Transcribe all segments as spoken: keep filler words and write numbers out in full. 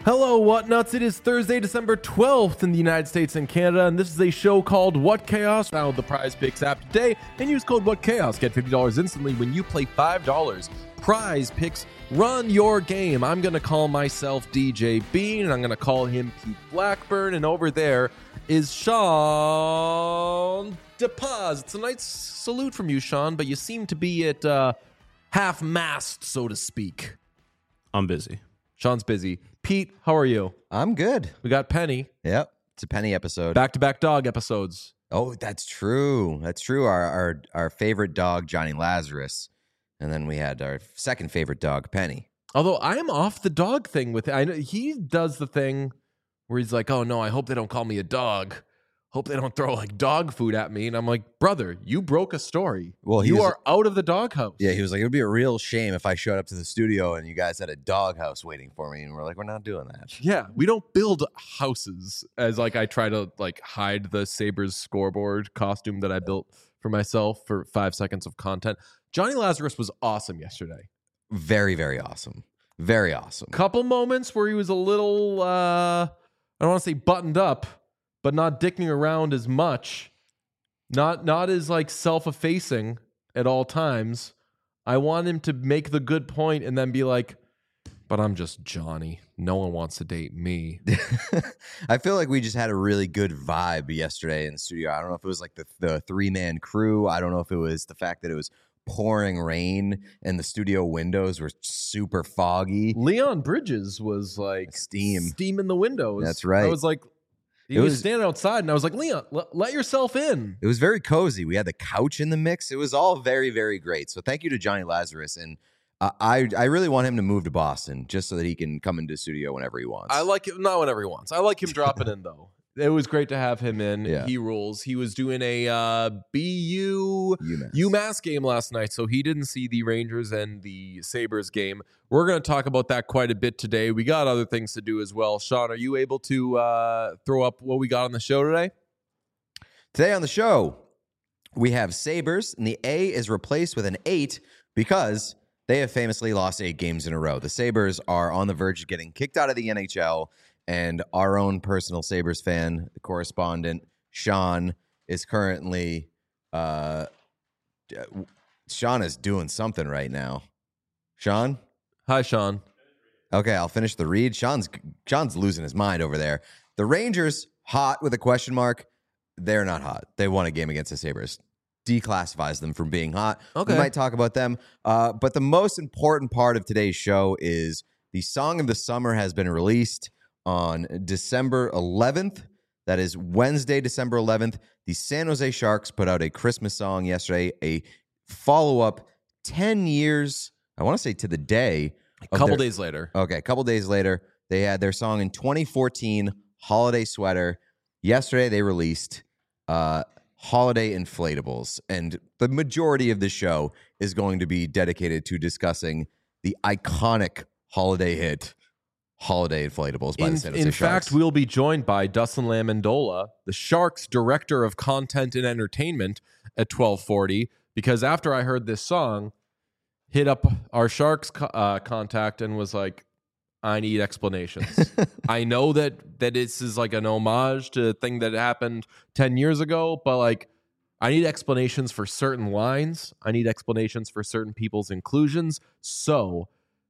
Hello, Whatnuts. It is Thursday, December twelfth in the United States and Canada, and this is a show called What Chaos. Download the Prize Picks app today and use code What Chaos. Get fifty dollars instantly when you play five dollars. Prize Picks, run your game. I'm going to call myself D J Bean, and I'm going to call him Pete Blackburn, and over there is Sean DePaz. It's a nice salute from you, Sean, but you seem to be at uh, half-mast, so to speak. I'm busy. Sean's busy. Pete, how are you? I'm good. We got Penny. Yep. It's a Penny episode. Back-to-back dog episodes. Oh, that's true. That's true. Our, our our favorite dog, Johnny Lazarus. And then we had our second favorite dog, Penny. Although I am off the dog thing with I know he does the thing where he's like, oh no, I hope they don't call me a dog. Hope they don't throw like dog food at me. And I'm like, brother, you broke a story. Well, he you was- are out of the doghouse. Yeah, he was like, it would be a real shame if I showed up to the studio and you guys had a doghouse waiting for me. And we're like, we're not doing that. Yeah, we don't build houses as like I try to like hide the Sabres scoreboard costume that I built for myself for five seconds of content. Johnny Lazarus was awesome yesterday. Very, very awesome. Very awesome. Couple moments where he was a little, uh, I don't want to say buttoned up, but not dicking around as much. Not not as like self-effacing at all times. I want him to make the good point and then be like, but I'm just Johnny. No one wants to date me. I feel like we just had a really good vibe yesterday in the studio. I don't know if it was like the, the three-man crew. I don't know if it was the fact that it was pouring rain and the studio windows were super foggy. Leon Bridges was like Steam. Steam in the windows. That's right. I was like, he It was, was- standing outside and I was like, Leon, l- let yourself in. It was very cozy. We had the couch in the mix. It was all very, very great. So thank you to Johnny Lazarus. And uh, I I really want him to move to Boston just so that he can come into the studio whenever he wants. I like it, not whenever he wants. I like him dropping in though. It was great to have him in. Yeah. He rules. He was doing a uh, B U UMass. UMass game last night, so he didn't see the Rangers and the Sabres game. We're going to talk about that quite a bit today. We got other things to do as well. Sean, are you able to uh, throw up what we got on the show today? Today on the show, we have Sabres, and the A is replaced with an eight because they have famously lost eight games in a row. The Sabres are on the verge of getting kicked out of the N H L, and our own personal Sabres fan, the correspondent, Sean, is currently... Uh, Sean is doing something right now. Sean? Hi, Sean. Okay, I'll finish the read. Sean's Sean's losing his mind over there. The Rangers, hot with a question mark. They're not hot. They won a game against the Sabres. Declassifies them from being hot. Okay. We might talk about them. Uh, but the most important part of today's show is the Song of the Summer has been released on December eleventh. That is Wednesday, December eleventh. The San Jose Sharks put out a Christmas song yesterday, a follow-up ten years, I want to say to the day. A couple days later. Okay, a couple days later, they had their song in twenty fourteen, Holiday Sweater. Yesterday, they released uh, Holiday Inflatables, and the majority of the show is going to be dedicated to discussing the iconic holiday hit, Holiday Inflatables by In, the San Jose in Sharks. fact, we'll be joined by Dustin Lamandola, the Sharks Director of Content and Entertainment at twelve forty, because after I heard this song, hit up our Sharks co- uh, contact and was like, I need explanations. I know that that this is like an homage to a thing that happened ten years ago, but like I need explanations for certain lines. I need explanations for certain people's inclusions. So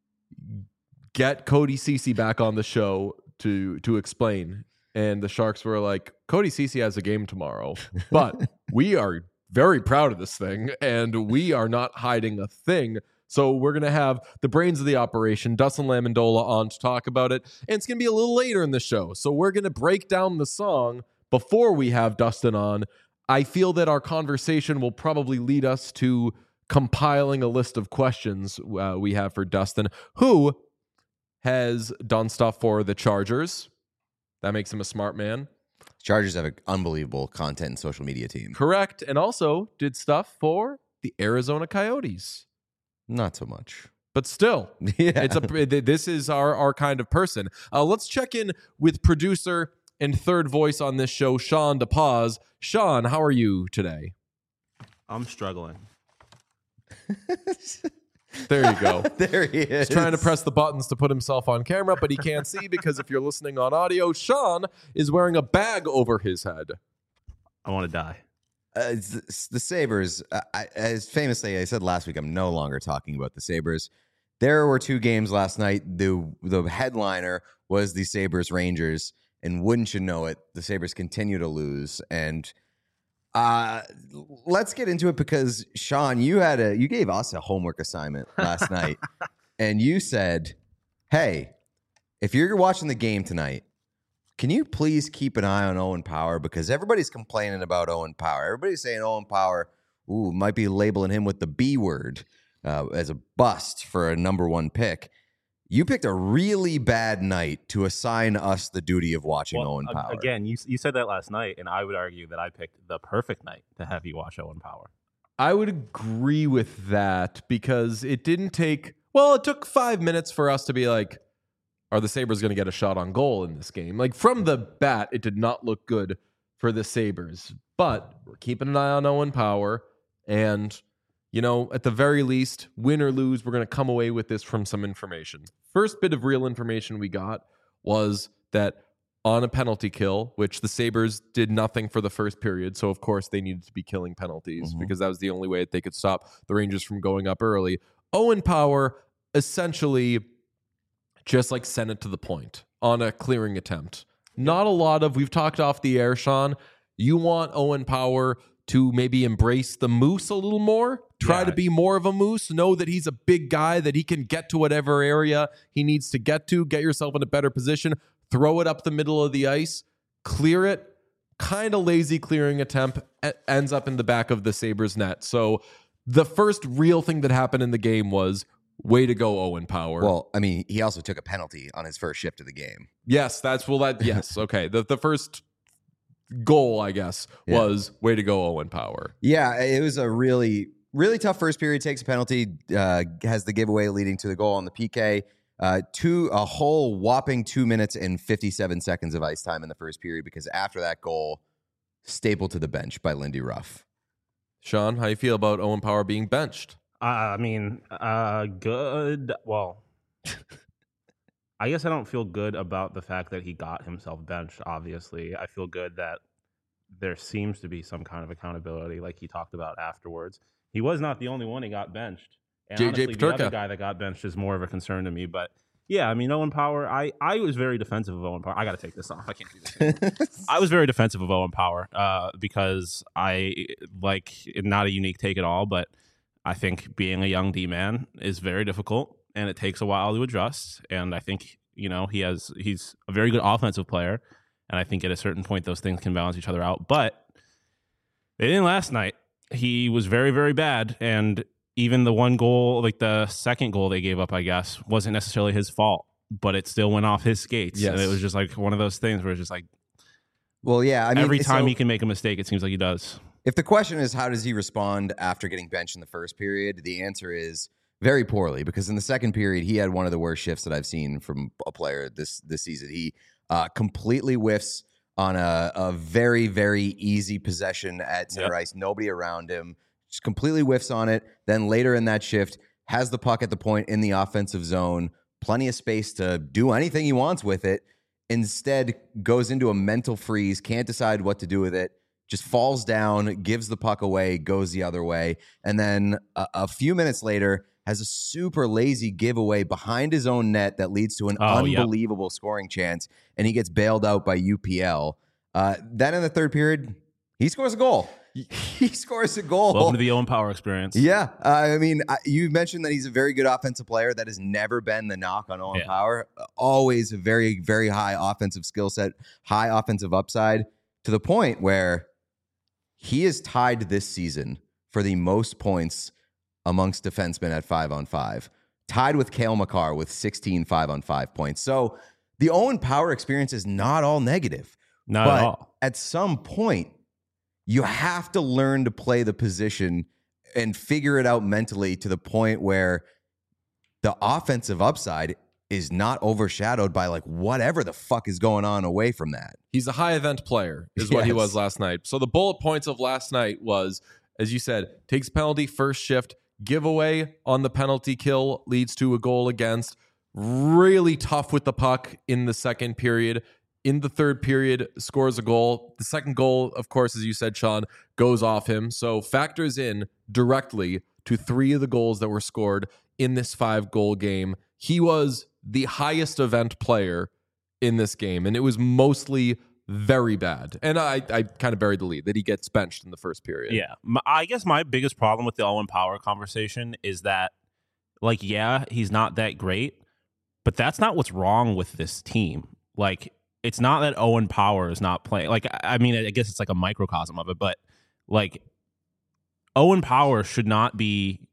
get Cody Ceci back on the show to to explain. And the Sharks were like, Cody Ceci has a game tomorrow, but we are very proud of this thing, and we are not hiding a thing. So we're going to have the brains of the operation, Dustin Lamandola, on to talk about it. And it's going to be a little later in the show. So we're going to break down the song before we have Dustin on. I feel that our conversation will probably lead us to compiling a list of questions uh, we have for Dustin, who has done stuff for the Chargers. That makes him a smart man. Chargers have an unbelievable content and social media team. Correct. And also did stuff for the Arizona Coyotes. Not so much. But still, Yeah. it's a this is our, our kind of person. Uh, let's check in with producer and third voice on this show, Sean DePaz. Sean, how are you today? I'm struggling. Thank There you go. There he is. He's trying to press the buttons to put himself on camera, but he can't see because if you're listening on audio, Sean is wearing a bag over his head. I want to die. Uh, the, the Sabres, uh, I, as famously I said last week, I'm no longer talking about the Sabres. There were two games last night. The the headliner was the Sabres Rangers, and wouldn't you know it, the Sabres continue to lose. And uh, let's get into it because Sean, you had a you gave us a homework assignment last night, and you said, "Hey, if you're watching the game tonight, can you please keep an eye on Owen Power because everybody's complaining about Owen Power. Everybody's saying Owen Power, ooh, might be labeling him with the B word." Uh, as a bust for a number one pick. You picked a really bad night to assign us the duty of watching well, Owen Power. Again, you you said that last night, and I would argue that I picked the perfect night to have you watch Owen Power. I would agree with that because it didn't take, well, it took five minutes for us to be like, are the Sabres going to get a shot on goal in this game? Like from the bat, it did not look good for the Sabres, but we're keeping an eye on Owen Power and you know, at the very least, win or lose, we're going to come away with this from some information. First bit of real information we got was that on a penalty kill, which the Sabres did nothing for the first period, so of course they needed to be killing penalties mm-hmm. because that was the only way that they could stop the Rangers from going up early. Owen Power essentially just like sent it to the point on a clearing attempt. Not a lot of, we've talked off the air, Sean, you want Owen Power to maybe embrace the moose a little more, try yeah. to be more of a moose, know that he's a big guy, that he can get to whatever area he needs to get to, get yourself in a better position, throw it up the middle of the ice, clear it, kind of lazy clearing attempt, ends up in the back of the Sabres net. So the first real thing that happened in the game was, way to go, Owen Power. Well, I mean, he also took a penalty on his first shift of the game. Yes, that's, well, that, yes, okay. The, the first goal, I guess, yeah. was way to go, Owen Power. Yeah, it was a really, really tough first period. Takes a penalty, uh, has the giveaway leading to the goal on the P K. Uh, two, a whole whopping two minutes and fifty-seven seconds of ice time in the first period because after that goal, stapled to the bench by Lindy Ruff. Sean, how you feel about Owen Power being benched? Uh, I mean, uh, good. Well, I guess I don't feel good about the fact that he got himself benched, obviously. I feel good that there seems to be some kind of accountability, like he talked about afterwards. He was not the only one who got benched. And J J honestly, Peterka. The other guy that got benched is more of a concern to me. But, yeah, I mean, Owen Power, I, I was very defensive of Owen Power. I got to take this off. I can't do this. I was very defensive of Owen Power uh, because I, like, not a unique take at all, but I think being a young D-man is very difficult. And it takes a while to adjust. And I think, you know, he has he's a very good offensive player. And I think at a certain point, those things can balance each other out. But they didn't last night. He was very, very bad. And even the one goal, like the second goal they gave up, I guess, wasn't necessarily his fault. But it still went off his skates. Yes. And it was just like one of those things where it's just like, well, yeah, I mean, every time so he can make a mistake, it seems like he does. If the question is, how does he respond after getting benched in the first period? The answer is very poorly, because in the second period, he had one of the worst shifts that I've seen from a player this this season. He uh, completely whiffs on a, a very, very easy possession at center yep. ice. Nobody around him. Just completely whiffs on it. Then later in that shift, has the puck at the point in the offensive zone. Plenty of space to do anything he wants with it. Instead, goes into a mental freeze, can't decide what to do with it. Just falls down, gives the puck away, goes the other way. And then a, a few minutes later, has a super lazy giveaway behind his own net that leads to an oh, unbelievable yep. scoring chance, and he gets bailed out by U P L. Uh, then in the third period, he scores a goal. He scores a goal. Welcome to the Owen Power experience. Yeah. Uh, I mean, I, you mentioned that he's a very good offensive player. That has never been the knock on Owen yeah. Power. Uh, always a very, very high offensive skill set, high offensive upside, to the point where he is tied this season for the most points amongst defensemen at five on five, tied with Cale Makar with sixteen five on five points. So the Owen Power experience is not all negative. Not but at all. At some point, you have to learn to play the position and figure it out mentally to the point where the offensive upside is not overshadowed by like whatever the fuck is going on away from that. He's a high event player is what yes. he was last night. So the bullet points of last night was, as you said, takes penalty first shift, giveaway on the penalty kill leads to a goal against. Really tough with the puck in the second period. In the third period, scores a goal. The second goal, of course, as you said, Sean, goes off him. So factors in directly to three of the goals that were scored in this five-goal game. He was the highest event player in this game, and it was mostly very bad. And I, I kind of buried the lead that he gets benched in the first period. Yeah. My, I guess my biggest problem with the Owen Power conversation is that, like, yeah, he's not that great, but that's not what's wrong with this team. Like, it's not that Owen Power is not playing. Like, I mean, I guess it's like a microcosm of it, but like Owen Power should not be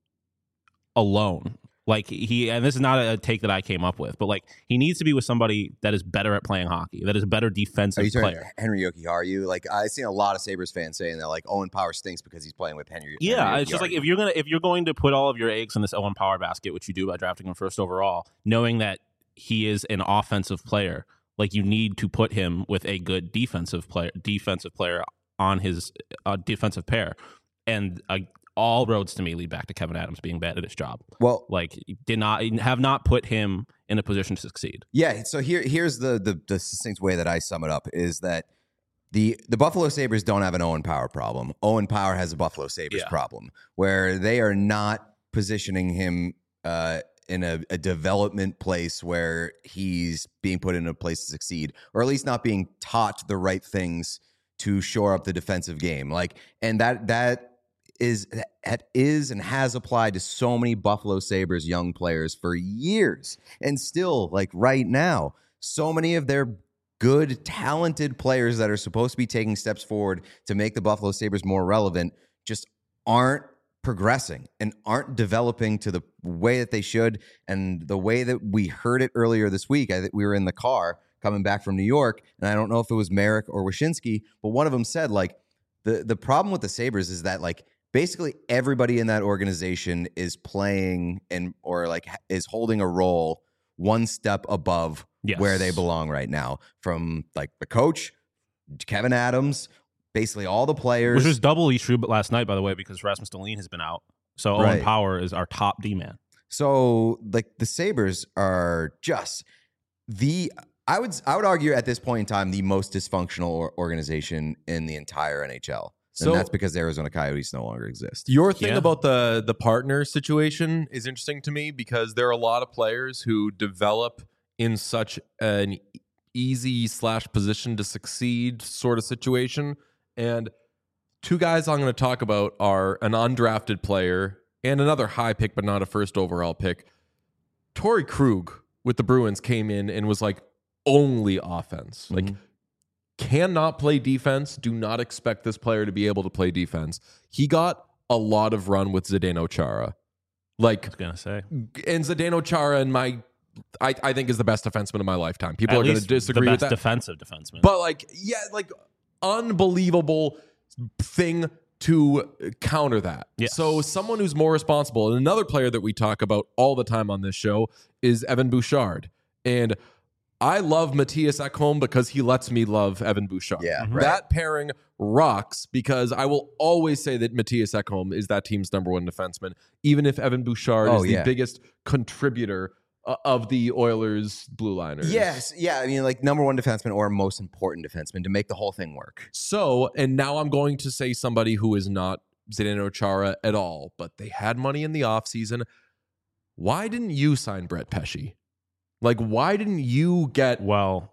alone. Like he, and this is not a take that I came up with, but like he needs to be with somebody that is better at playing hockey, that is a better defensive Are you player. Henry Jokiharju? Like I've seen a lot of Sabres fans saying that like Owen Power stinks because he's playing with Henry. Yeah, Henry it's just like Jokiharju. if you're gonna if you're going to put all of your eggs in this Owen Power basket, which you do by drafting him first overall, knowing that he is an offensive player, like you need to put him with a good defensive player, defensive player on his uh, defensive pair, and uh, all roads to me lead back to Kevin Adams being bad at his job. Well, Like did not have not put him in a position to succeed. yeah. So here, here's the, the the succinct way that I sum it up is that the the Buffalo Sabres don't have an Owen Power problem. Owen Power has a Buffalo Sabres Yeah. problem where they are not positioning him uh, in a, a development place where he's being put in a place to succeed, or at least not being taught the right things to shore up the defensive game. Like, and that that. is that is and has applied to so many Buffalo Sabres young players for years. And still, like right now, so many of their good, talented players that are supposed to be taking steps forward to make the Buffalo Sabres more relevant just aren't progressing and aren't developing to the way that they should. And the way that we heard it earlier this week, I think we were in the car coming back from New York, and I don't know if it was Merrick or Wyshynski, but one of them said, like, the, the problem with the Sabres is that, like, basically everybody in that organization is playing and or like is holding a role one step above Yes. where they belong right now, from like the coach, Kevin Adams, basically all the players. Which was doubly true but last night, by the way, because Rasmus Dahlin has been out. So Owen Right. Power is our top D-man. So like the Sabres are just the I would I would argue at this point in time the most dysfunctional or- organization in the entire N H L. So- And that's because the Arizona Coyotes no longer exist. Your thing Yeah. about the the partner situation is interesting to me because there are a lot of players who develop in such an easy slash position to succeed sort of situation. And two guys I'm going to talk about are an undrafted player and another high pick, but not a first overall pick. Torrey Krug with the Bruins came in and was like only offense. Like Mhm. cannot play defense. Do not expect this player to be able to play defense. He got a lot of run with Zdeno Chara. Like, I was going to say. and Zdeno Chara, in my, I, I think is the best defenseman of my lifetime. People At are going to least disagree the with best that. defensive defenseman. But like, yeah, like unbelievable thing to counter that. Yes. So someone who's more responsible, and another player that we talk about all the time on this show is Evan Bouchard. And I love Matthias Ekholm because he lets me love Evan Bouchard. Yeah, Mhm. right. That pairing rocks because I will always say that Matthias Ekholm is that team's number one defenseman, even if Evan Bouchard Oh, is the yeah. biggest contributor uh, of the Oilers blue liners. Yes, yeah. I mean, like number one defenseman or most important defenseman to make the whole thing work. So, and now I'm going to say somebody who is not Zdeno Chara at all, but they had money in the offseason. Why didn't you sign Brett Pesce? Like, why didn't you get Well,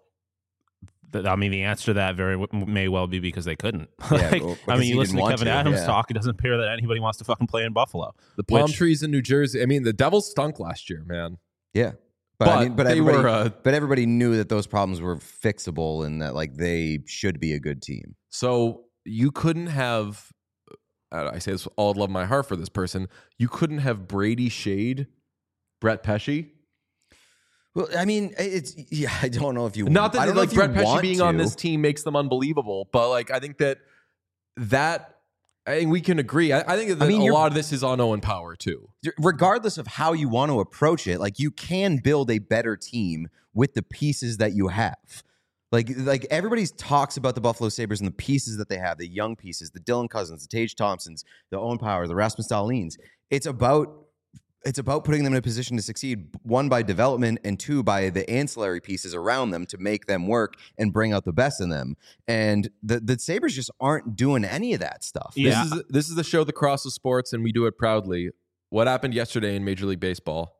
th- I mean, the answer to that very w- may well be because they couldn't. Yeah, Like, well, I because mean, he you listen didn't to want Kevin to, Adams yeah. talk; it doesn't appear that anybody wants to fucking play in Buffalo. the palm Which- trees in New Jersey? I mean, the Devils stunk last year, man. Yeah, but, But, I mean, but they everybody, were, uh, but everybody knew that those problems were fixable and that like they should be a good team. so you couldn't have, uh, I say this with all love of my heart for this person, you couldn't have Brady Shade, Brett Pesce. Well, I mean, it's yeah. I don't know if you Not that I don't know like if you Brett Pesce want being on to. this team makes them unbelievable, but like I think that that I think we can agree. I, I think that I mean, a you're- lot of this is on Owen Power too. regardless of how you want to approach it, like you can build a better team with the pieces that you have. Like, like everybody talks about the Buffalo Sabres and the pieces that they have, the young pieces, the Dylan Cousins, the Tage Thompsons, the Owen Power, the Rasmus Dahlins. It's about it's about putting them in a position to succeed, one, by development, and two, by the ancillary pieces around them to make them work and bring out the best in them. And the, the Sabres just aren't doing any of that stuff. Yeah. This is this is the show, The Cross of Sports, and we do it proudly. What happened yesterday in Major League Baseball?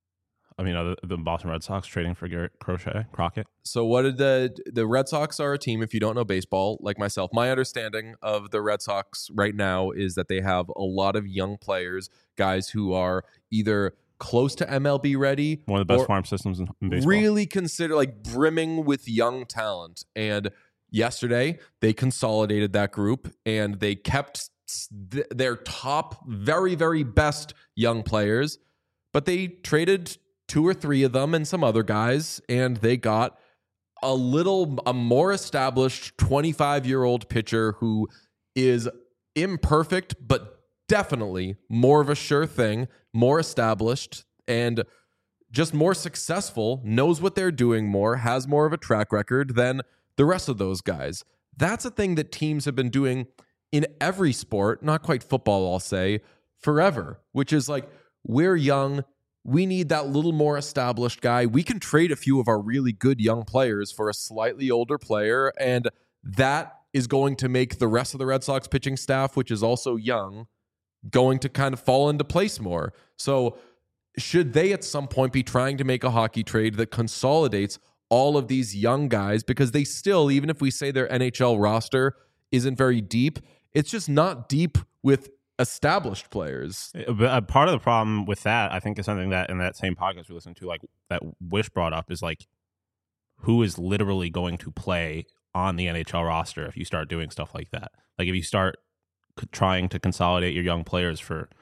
I mean, uh, the, the Boston Red Sox trading for Garrett Crochet, Crockett. So what did the the Red Sox are a team, if you don't know baseball, like myself. My understanding of the Red Sox right now is that they have a lot of young players, guys who are either close to M L B ready, One of the best farm systems in, in baseball. really consider like brimming with young talent. And yesterday they consolidated that group and they kept th- their top, very, very best young players, but they traded two or three of them and some other guys, and they got a little, a more established twenty-five-year-old pitcher who is imperfect, but definitely more of a sure thing, more established, and just more successful, knows what they're doing more, has more of a track record than the rest of those guys. That's a thing that teams have been doing in every sport, not quite football, I'll say, forever, which is like, we're young, we need that little more established guy. We can trade a few of our really good young players for a slightly older player, and that is going to make the rest of the Red Sox pitching staff, which is also young, going to kind of fall into place more. So should they at some point be trying to make a hockey trade that consolidates all of these young guys? Because they still, even if we say their N H L roster isn't very deep, it's just not deep with established players. But uh, part of the problem with that, I think, is something that in that same podcast we listened to, like that Wish brought up, is like, who is literally going to play on the N H L roster if you start doing stuff like that? Like if you start c- trying to consolidate your young players for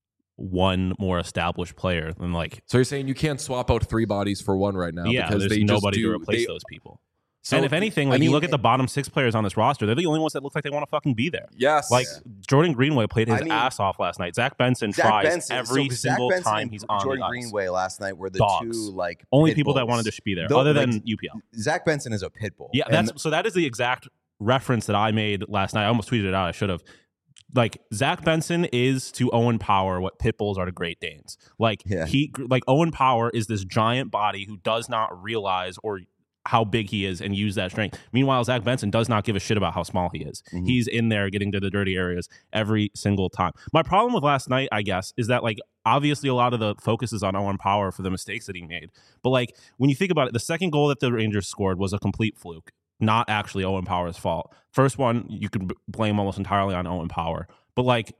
one more established player, then like, So you're saying you can't swap out three bodies for one right now? yeah, because there's they nobody just do, to replace they, those people. So and if anything, like I mean, you look at the bottom six players on this roster, they're the only ones that look like they want to fucking be there. Yes. Like Jordan Greenway played his I mean, ass off last night. Zach Benson Zach tries Benson, every so single Zach Benson time and he's on Jordan the ice. Greenway last night were the Dogs. two like Only pit people that bulls. wanted to just be there, Though, other like, than U P L. Zach Benson is a pit bull. Yeah, And that's so. That is the exact reference that I made last night. I almost tweeted it out. I should have. Like Zach Benson is to Owen Power what pit bulls are to Great Danes. Like Yeah. he, like Owen Power is this giant body who does not realize or how big he is and use that strength. Meanwhile, Zach Benson does not give a shit about how small he is. Mhm. He's in there getting to the dirty areas every single time. My problem with last night, I guess, is that like obviously a lot of the focus is on Owen Power for the mistakes that he made. But like when you think about it, the second goal that the Rangers scored was a complete fluke, not actually Owen Power's fault. First one, you could b- blame almost entirely on Owen Power. But like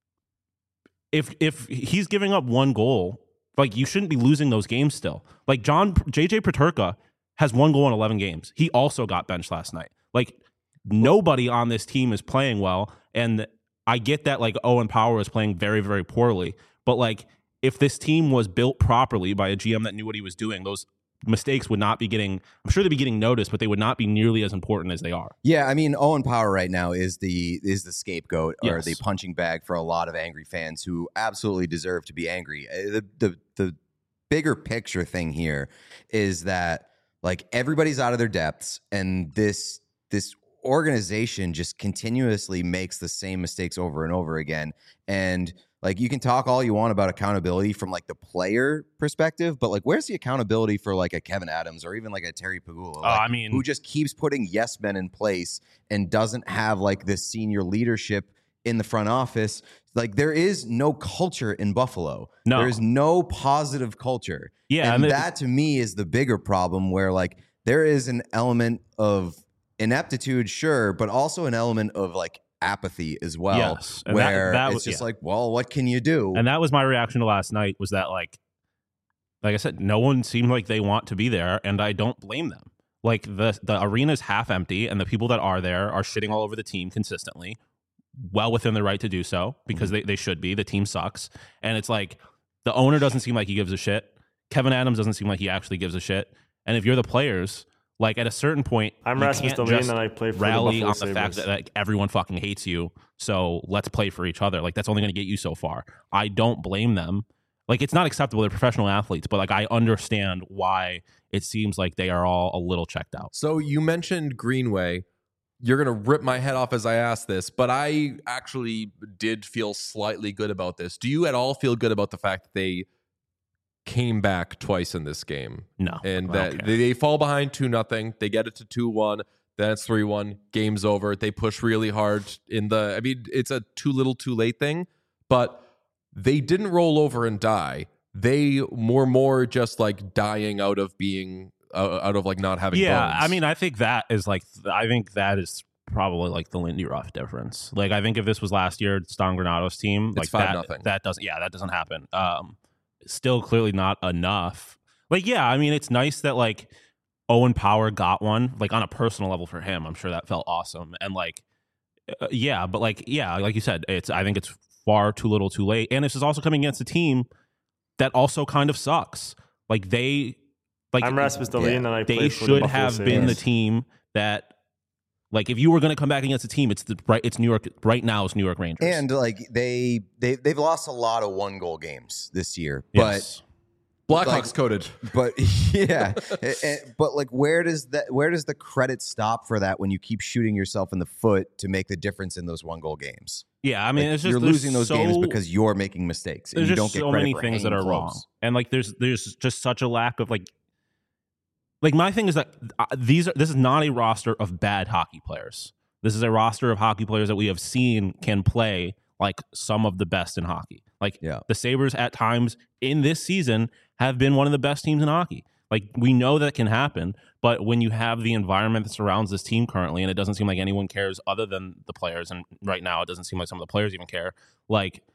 if if he's giving up one goal, like you shouldn't be losing those games still. Like John J J Peterka has one goal in eleven games. He also got benched last night. Like nobody on this team is playing well, and I get that like Owen Power is playing very, very poorly, but like if this team was built properly by a G M that knew what he was doing, those mistakes would not be getting, I'm sure they'd be getting noticed, but they would not be nearly as important as they are. Yeah, I mean, Owen Power right now is the is the scapegoat or Yes. the punching bag for a lot of angry fans who absolutely deserve to be angry. Uh, The the the bigger picture thing here is that like everybody's out of their depths, and this this organization just continuously makes the same mistakes over and over again. And like you can talk all you want about accountability from like the player perspective, but like where's the accountability for like a Kevin Adams or even like a Terry Pagula? Like, I mean- who just keeps putting yes men in place and doesn't have like this senior leadership in the front office. Like there is no culture in Buffalo. No. There is no positive culture. Yeah, And and it- that to me is the bigger problem where like there is an element of ineptitude, sure, but also an element of like apathy as well. Yes, and that- where that it's was- just yeah. like, well, what can you do? And that was my reaction to last night, was that like, like I said, no one seemed like they want to be there, and I don't blame them. Like the the arena's half empty, and the people that are there are shitting all over the team consistently, well within their right to do so, because they, they should be. The team sucks. And it's like the owner doesn't seem like he gives a shit. Kevin Adams doesn't seem like he actually gives a shit. And if you're the players, like at a certain point, I'm you Rasmus can't Dahlin just and I play for rally the on Buffalo the fact Sabres. that like everyone fucking hates you. So let's play for each other. Like that's only going to get you so far. I don't blame them. Like, it's not acceptable. They're professional athletes, but like I understand why it seems like they are all a little checked out. So you mentioned Greenway. You're going to rip my head off as I ask this, but I actually did feel slightly good about this. Do you at all feel good about the fact that they came back twice in this game? No. And I that don't care. they, they fall behind two nothing. They get it to two one. Then it's three one. Game's over. They push really hard in the, I mean, it's a too little too late thing, but they didn't roll over and die. They were more just like dying out of being, uh, out of like not having Yeah, bones. I mean, I think that is like, I think that is probably like the Lindy Ruff difference. Like, I think if this was last year, Stan Granato's team, It's like five that, nothing. that doesn't, yeah, that doesn't happen. Um, still clearly not enough. Like, yeah, I mean, it's nice that like Owen Power got one, like on a personal level for him. I'm sure that felt awesome. And like, uh, yeah, but like, yeah, like you said, it's, I think it's far too little too late. And this is also coming against a team that also kind of sucks. Like they, like I'm Rasmus Dahlin, yeah, and I they play for the should Buffalo have been the Sabres. team that, like, if you were going to come back against a team, it's the right, it's New York right now. It's New York Rangers, And like they they they've lost a lot of one goal games this year, yes. Blackhawks like- coded. but but yeah, Eh, eh, but like where does that where does the credit stop for that when you keep shooting yourself in the foot to make the difference in those one goal games? yeah. I mean, Like, it's just you're there's losing those so, games because you're making mistakes and there's you just don't get so credit many for things that hanging are wrong, close. and like there's there's just such a lack of like, like my thing is that uh, these are this is not a roster of bad hockey players. This is a roster of hockey players that we have seen can play like some of the best in hockey. Like Yeah. the Sabres at times in this season have been one of the best teams in hockey. Like we know that can happen, but when you have the environment that surrounds this team currently, and it doesn't seem like anyone cares other than the players, and right now it doesn't seem like some of the players even care, like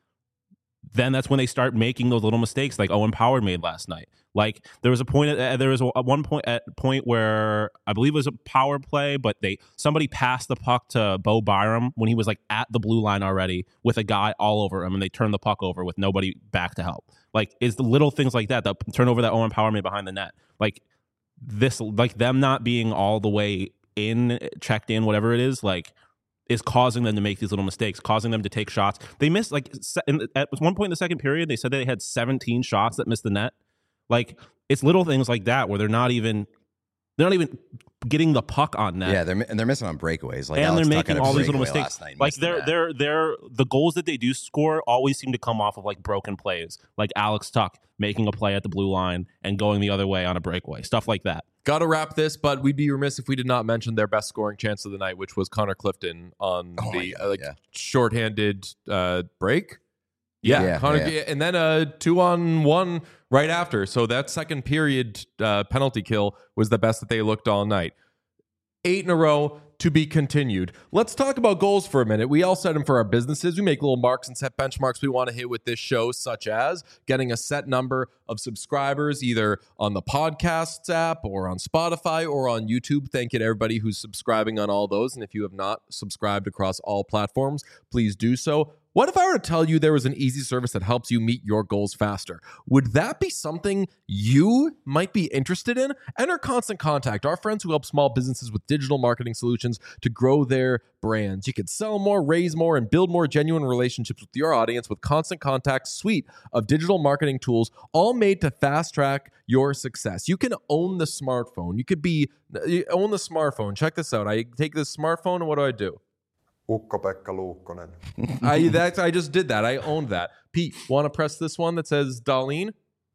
then that's when they start making those little mistakes like Owen Power made last night. Like there was a point at, uh, there was a, at one point at point where I believe it was a power play, but they somebody passed the puck to Bo Byram when he was like at the blue line already with a guy all over him, and they turned the puck over with nobody back to help. Like it's the little things like that, the turnover that Owen Power made behind the net. Like this, like them not being all the way in, checked in, whatever it is, like is causing them to make these little mistakes, causing them to take shots. They missed like se- in, at one point in the second period, they said they had seventeen shots that missed the net. Like it's little things like that where they're not even they're not even getting the puck on net. Yeah, they're mi- and they're missing on breakaways. Like and Alex they're Tuch had making a all these little breakaway mistakes. last night and Like missed the they're net. they're they're the goals that they do score always seem to come off of like broken plays, like Alex Tuch making a play at the blue line and going the other way on a breakaway, stuff like that. Got to wrap this, but we'd be remiss if we did not mention their best scoring chance of the night, which was Connor Clifton on Oh my the God, uh, like yeah. shorthanded uh, break. Yeah, Yeah, Connor, yeah. and then a two on one right after. So that second period uh, penalty kill was the best that they looked all night. Eight in a row to be continued. Let's talk about goals for a minute. We all set them for our businesses. We make little marks and set benchmarks we want to hit with this show, such as getting a set number of subscribers either on the podcasts app or on Spotify or on YouTube. Thank you to everybody who's subscribing on all those. And if you have not subscribed across all platforms, please do so. What if I were to tell you there was an easy service that helps you meet your goals faster? Would that be something you might be interested in? Enter Constant Contact, our friends who help small businesses with digital marketing solutions to grow their brands. You can sell more, raise more, and build more genuine relationships with your audience with Constant Contact's suite of digital marketing tools, all made to fast track your success. You can own the smartphone. You could be you own the smartphone. Check this out. I take this smartphone, and what do I do? Ukko-Pekka Luukkonen. I that's I just did that. I owned that. Pete, want to press this one that says Dahlin?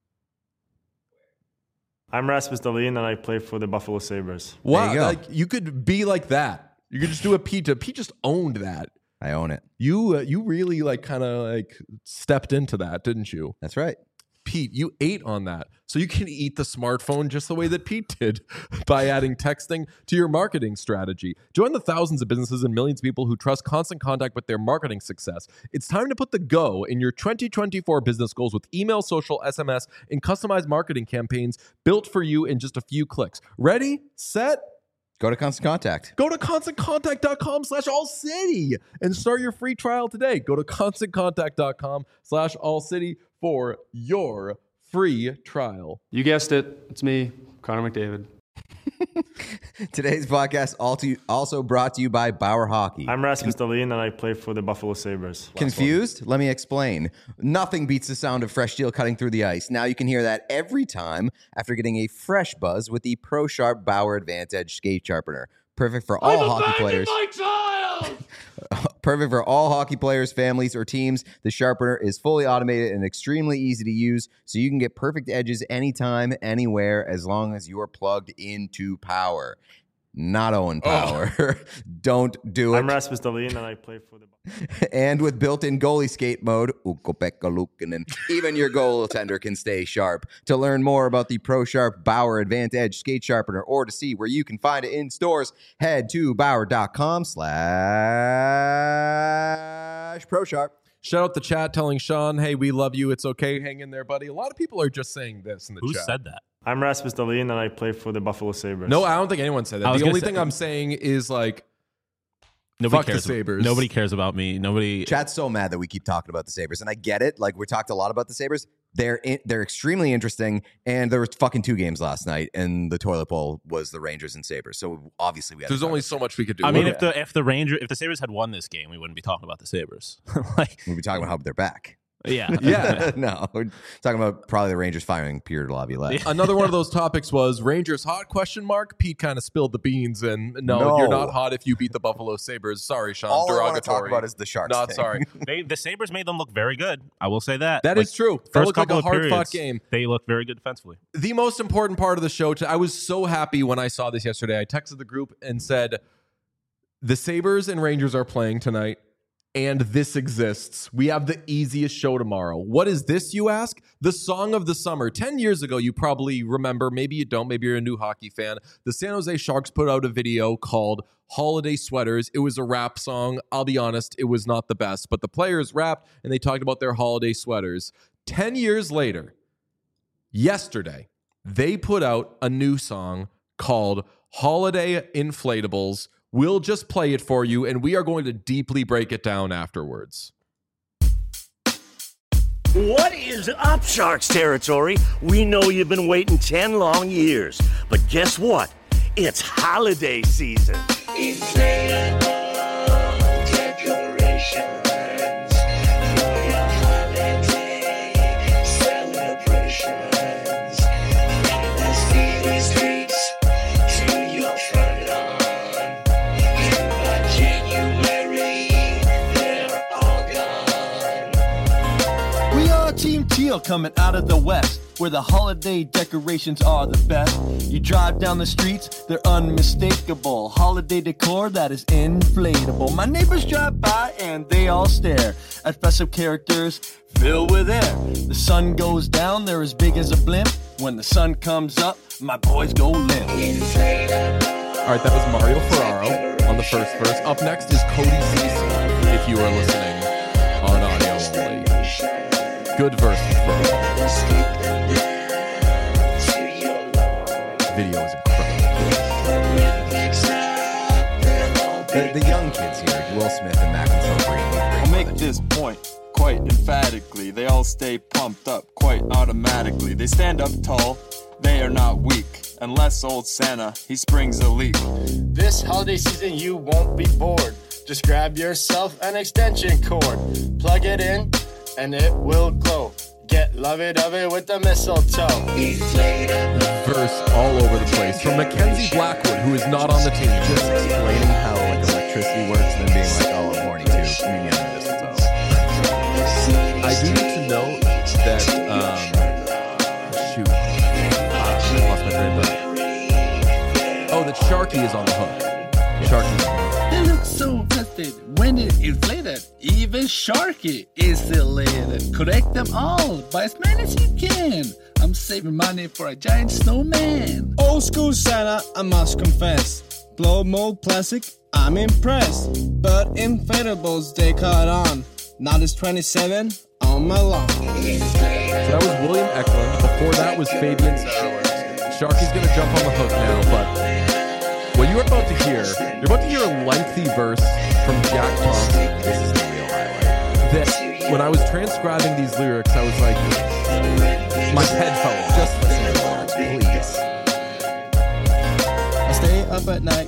I'm Rasmus Dahlin, and I play for the Buffalo Sabres. Wow, you go. like you could be like that. You could just do a Pete. Pete just owned that. I own it. You uh, you really like kind of like stepped into that, didn't you? That's right. Pete, you ate on that. So you can eat the smartphone just the way that Pete did by adding texting to your marketing strategy. Join the thousands of businesses and millions of people who trust Constant Contact with their marketing success. It's time to put the go in your twenty twenty-four business goals with email, social, S M S, and customized marketing campaigns built for you in just a few clicks. Ready, set, Go to Constant Contact. go to constantcontact.com slash all city and start your free trial today. Go to constantcontact.com slash all city for your free trial. You guessed it. It's me, Connor McDavid. Today's podcast also brought to you by Bauer Hockey. I'm Rasmus Dahlin, and I play for the Buffalo Sabres. Confused? Let me explain. Nothing beats the sound of fresh steel cutting through the ice. Now you can hear that every time after getting a fresh buzz with the Pro Sharp Bauer Advantage Skate Sharpener. Perfect for all hockey players. My child! Perfect for all hockey players, families, or teams. The sharpener is fully automated and extremely easy to use, so you can get perfect edges anytime, anywhere, as long as you're plugged into power. Not Owen Power. Oh. Don't do it. I'm Rasmus Dahlin, and I play for the... And with built-in goalie skate mode, Ukko-Pekka Luukkonen, even your goaltender can stay sharp. To learn more about the Pro Sharp Bauer Advantage Skate Sharpener or to see where you can find it in stores, head to Bauer.com slash Pro Sharp. Shout out the chat telling Sean, hey, we love you. It's okay. Hang in there, buddy. A lot of people are just saying this in the Who chat. Who said that? I'm Rasmus Dahlin, and I play for the Buffalo Sabres. No, I don't think anyone said that. The only say, thing I'm saying is like, nobody fuck cares the Sabres. Nobody cares about me. Nobody. Chat's so mad that we keep talking about the Sabres, and I get it. Like, we talked a lot about the Sabres. They're in, they're extremely interesting, and there was fucking two games last night, and the toilet bowl was the Rangers and Sabres. So obviously, we had there's only so much we could do. I mean, if the if the Ranger if the Sabres had won this game, we wouldn't be talking about the Sabres. Like, we'd be talking about how they're back. Yeah. Yeah. No, we're talking about probably the Rangers firing Pierre Laviolette. Yeah. Another one of those topics was Rangers hot question mark. Pete kind of spilled the beans, and no, no, you're not hot if you beat the Buffalo Sabres. Sorry, Sean. All derogatory. I want to talk about is the Sharks. Not thing. sorry. They, the Sabres made them look very good. I will say that. That like, is true. That first looked like couple a of hard periods, fought game. They looked very good defensively. The most important part of the show, to, I was so happy when I saw this yesterday. I texted the group and said, the Sabres and Rangers are playing tonight, and this exists. We have the easiest show tomorrow. What is this, you ask? The song of the summer. Ten years ago, you probably remember, maybe you don't, maybe you're a new hockey fan. The San Jose Sharks put out a video called Holiday Sweaters. It was a rap song. I'll be honest, it was not the best, but the players rapped and they talked about their holiday sweaters. Ten years later, yesterday, they put out a new song called Holiday Inflatables. We'll just play it for you, and we are going to deeply break it down afterwards. What is up, Sharks territory? We know you've been waiting ten long years, but guess what? It's holiday season. Inflatable decorations for your holiday celebrations. From the city streets to your front lawn. Team Teal coming out of the west, where the holiday decorations are the best. You drive down the streets, they're unmistakable. Holiday decor that is inflatable. My neighbors drive by and they all stare at festive characters filled with air. The sun goes down, they're as big as a blimp. When the sun comes up, my boys go limp. All right, that was Mario Ferraro on the first verse. Up next is Cody Cecil, if you are listening on audio only. Good verse, bro. Video is incredible. The, the young kids here, Will Smith and Maxwell Green. I'll make this point quite emphatically. They all stay pumped up quite automatically. They stand up tall, they are not weak. Unless old Santa, he springs a leak. This holiday season you won't be bored. Just grab yourself an extension cord. Plug it in and it will glow. Get lovey-dovey with the mistletoe. Verse all over the place. From Mackenzie Blackwood, who is not on the team. Just explaining how like electricity works and then being like, oh, I'm horny too. Mm, yeah, mistletoe. I do need to note that, um, shoot. Ah, I lost my train of thought. Oh, that Sharky is on the hook. Sharky's on the hook. They look so festive when it's inflated. Even Sharky is elated. Collect them all, buy as many as you can. I'm saving money for a giant snowman. Old school Santa, I must confess. Blow mold plastic, I'm impressed. But inflatables, they caught on. Now there's twenty-seven on my lawn. So that was William Eklund. Before that was Fabian Zetterlund. Sharky's going to jump on the hook now, but what you're about to hear, you're about to hear a lengthy verse from Jack Thompson. This is the real highlight. That when I was transcribing these lyrics, I was like, my head fell off. Just listen to the lyrics, please. I stay up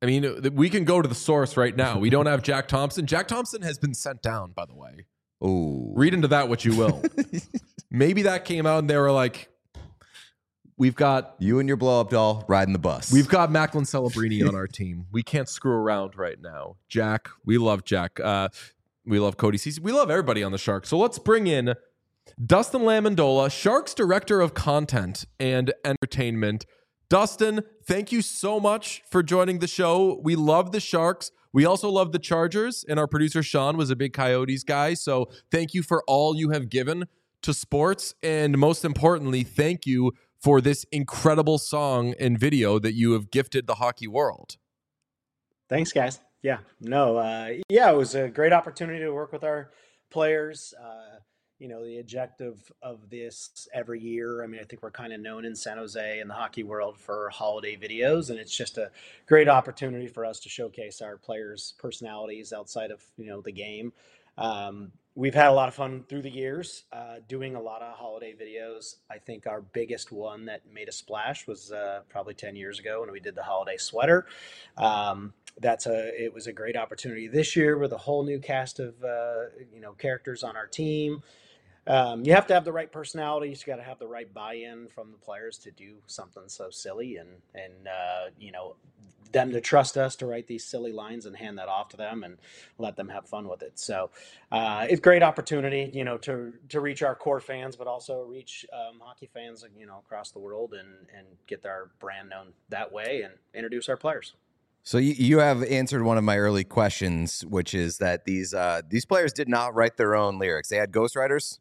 I mean, we can go to the source right now. We don't have Jack Thompson. Jack Thompson has been sent down, by the way. Oh, read into that what you will. Maybe that came out and they were like, we've got you and your blow up doll riding the bus. We've got Macklin Celebrini on our team. We can't screw around right now. Jack, we love Jack. Uh, we love Cody Ceci. We love everybody on the Sharks. So let's bring in Dustin Lamendola, Sharks Director of Content and Entertainment. Dustin, thank you so much for joining the show. We love the Sharks. We also love the Chargers, and our producer Sean was a big Coyotes guy. So thank you for all you have given to sports. And most importantly, thank you for this incredible song and video that you have gifted the hockey world. Thanks, guys. Yeah, no, uh, yeah, it was a great opportunity to work with our players. Uh, you know, the objective of this every year, I mean, I think we're kind of known in San Jose and the hockey world for holiday videos, and it's just a great opportunity for us to showcase our players' personalities outside of, you know, the game. Um, we've had a lot of fun through the years uh, doing a lot of holiday videos. I think our biggest one that made a splash was uh, probably ten years ago when we did the holiday sweater. Um, that's a, it was a great opportunity this year with a whole new cast of, uh, you know, characters on our team. Um, you have to have the right personalities. You got to have the right buy-in from the players to do something so silly, and and uh, you know, them to trust us to write these silly lines and hand that off to them and let them have fun with it. So uh, it's a great opportunity, you know, to to reach our core fans, but also reach um, hockey fans, you know, across the world, and and get our brand known that way and introduce our players. So you, you have answered one of my early questions, which is that these uh, these players did not write their own lyrics. They had ghostwriters.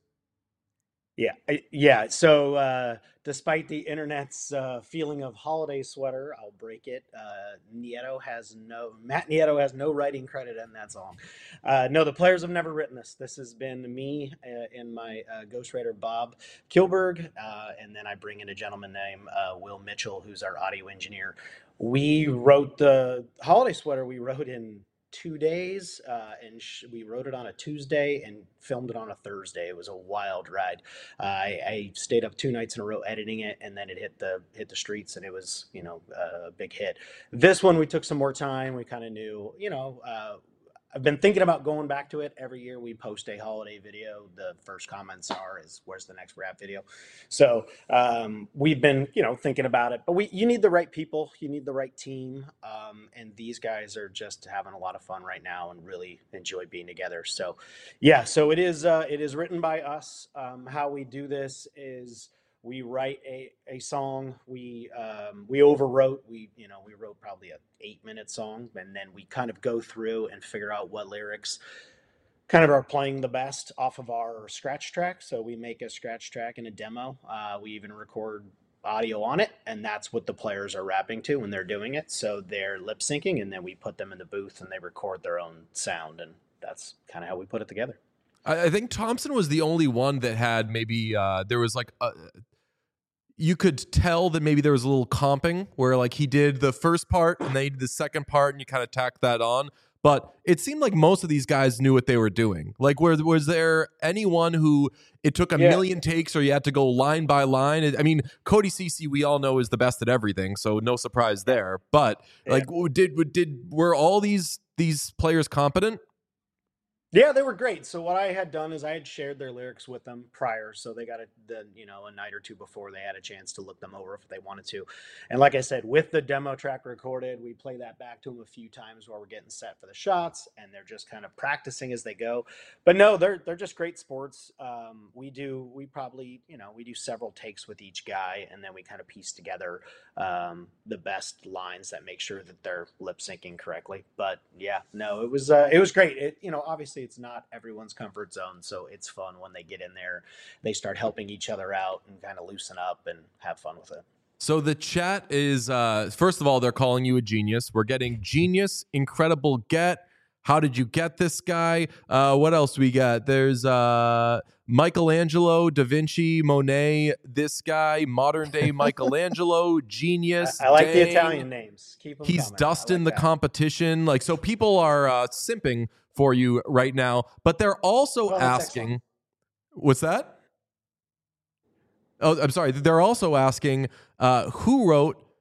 Yeah, yeah. So uh, despite the internet's uh, feeling of holiday sweater, I'll break it. Uh, Nieto has no Matt Nieto has no writing credit in that song. Uh, no, the players have never written this. This has been me uh, and my uh, ghostwriter Bob Kilberg, uh, and then I bring in a gentleman named uh, Will Mitchell, who's our audio engineer. We wrote the holiday sweater. We wrote in two days, uh, and sh- we wrote it on a Tuesday and filmed it on a Thursday. It was a wild ride. Uh, I, I stayed up two nights in a row editing it, and then it hit the hit the streets, and it was, you know, a big hit. This one we took some more time. We kind of knew, you know, uh, I've been thinking about going back to it. Every year we post a holiday video. The first comments are, is where's the next rap video? So um, we've been, you know, thinking about it. But we, you need the right people. You need the right team. Um, and these guys are just having a lot of fun right now and really enjoy being together. So, yeah, so it is, uh, it is written by us. Um, how we do this is we write a, a song. We um, we overwrote. We you know we wrote probably a eight minute song, and then we kind of go through and figure out what lyrics kind of are playing the best off of our scratch track. So we make a scratch track and a demo. Uh, we even record audio on it, and that's what the players are rapping to when they're doing it. So they're lip syncing, and then we put them in the booth and they record their own sound, and that's kind of how we put it together. I, I think Thompson was the only one that had maybe uh, there was like a, you could tell that maybe there was a little comping where like he did the first part and they did the second part and you kind of tacked that on. But it seemed like most of these guys knew what they were doing. Like, was, was there anyone who it took a yeah. million takes or you had to go line by line? I mean, Cody Ceci, we all know, is the best at everything, so no surprise there. But yeah. like, did did were all these these players competent? Yeah, they were great. So what I had done is I had shared their lyrics with them prior, so they got a the, you know a night or two before they had a chance to look them over if they wanted to. And like I said, with the demo track recorded, we play that back to them a few times while we're getting set for the shots, and they're just kind of practicing as they go. But no, they're they're just great sports. Um, we do we probably you know we do several takes with each guy, and then we kind of piece together um, the best lines that make sure that they're lip syncing correctly. But yeah, no, it was uh, it was great. It you know obviously. It's not everyone's comfort zone, so it's fun when they get in there, they start helping each other out and kind of loosen up and have fun with it. So the chat is, uh, first of all, they're calling you a genius. We're getting genius, incredible get. How did you get this guy? Uh, what else we got? There's uh, Michelangelo, Da Vinci, Monet, this guy, modern day Michelangelo, genius. I, I like dang. the Italian names. Keep them He's coming. Dustin like the competition. Like, so people are uh, simping for you right now, but they're also well, asking, what's that? Oh, I'm sorry. They're also asking uh, who wrote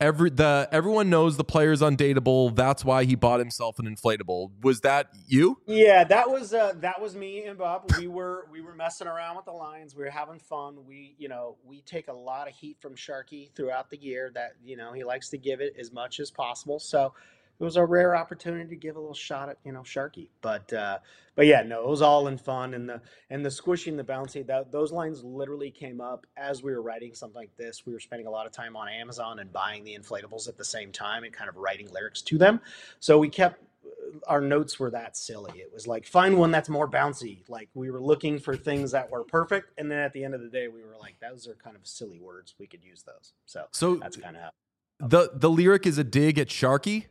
every the everyone knows the player's undateable. That's why he bought himself an inflatable. Was that you? Yeah, that was uh, that was me and Bob. We were we were messing around with the lines. We were having fun. We you know we take a lot of heat from Sharky throughout the year. That you know he likes to give it as much as possible. So it was a rare opportunity to give a little shot at you know Sharky. But uh, but yeah, no, it was all in fun. And the and the squishing, the bouncy, that those lines literally came up as we were writing something like this. We were spending a lot of time on Amazon and buying the inflatables at the same time and kind of writing lyrics to them. So we kept. Our notes were that silly. It was like, find one that's more bouncy. Like we were looking for things that were perfect. And then at the end of the day, we were like, those are kind of silly words. We could use those. So, so that's kind of how. The, the lyric is a dig at Sharky?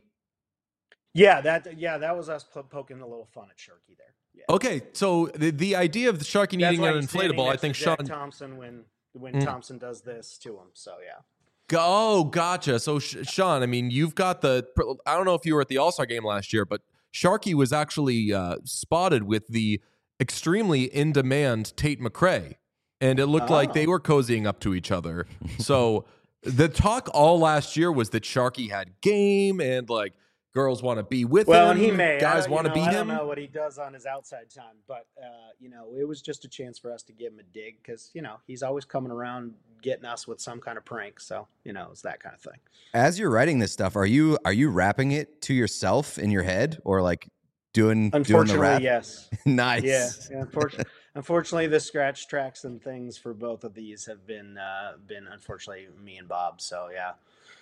Yeah, that yeah, that was us po- poking a little fun at Sharky there. Yeah. Okay, so the, the idea of the Sharky That's needing like an standing inflatable, I next think to Jack Sean... Thompson when, when Mm. Thompson does this to him. So, yeah. Oh, gotcha. So, Sh- Sean, I mean, you've got the... I don't know if you were at the All-Star game last year, but Sharky was actually uh, spotted with the extremely in-demand Tate McRae, and it looked Oh. like they were cozying up to each other. So the talk all last year was that Sharky had game and, like, girls want to be with Well, him, and he may. guys I, want to know, be I him. don't know what he does on his outside time, but uh, you know, it was just a chance for us to give him a dig because you know he's always coming around getting us with some kind of prank. So you know, it's that kind of thing. As you're writing this stuff, are you are you rapping it to yourself in your head or like doing doing the Unfortunately, rap? yes. Nice. Yeah. yeah unfortunately, unfortunately, the scratch tracks and things for both of these have been uh, been unfortunately me and Bob. So yeah.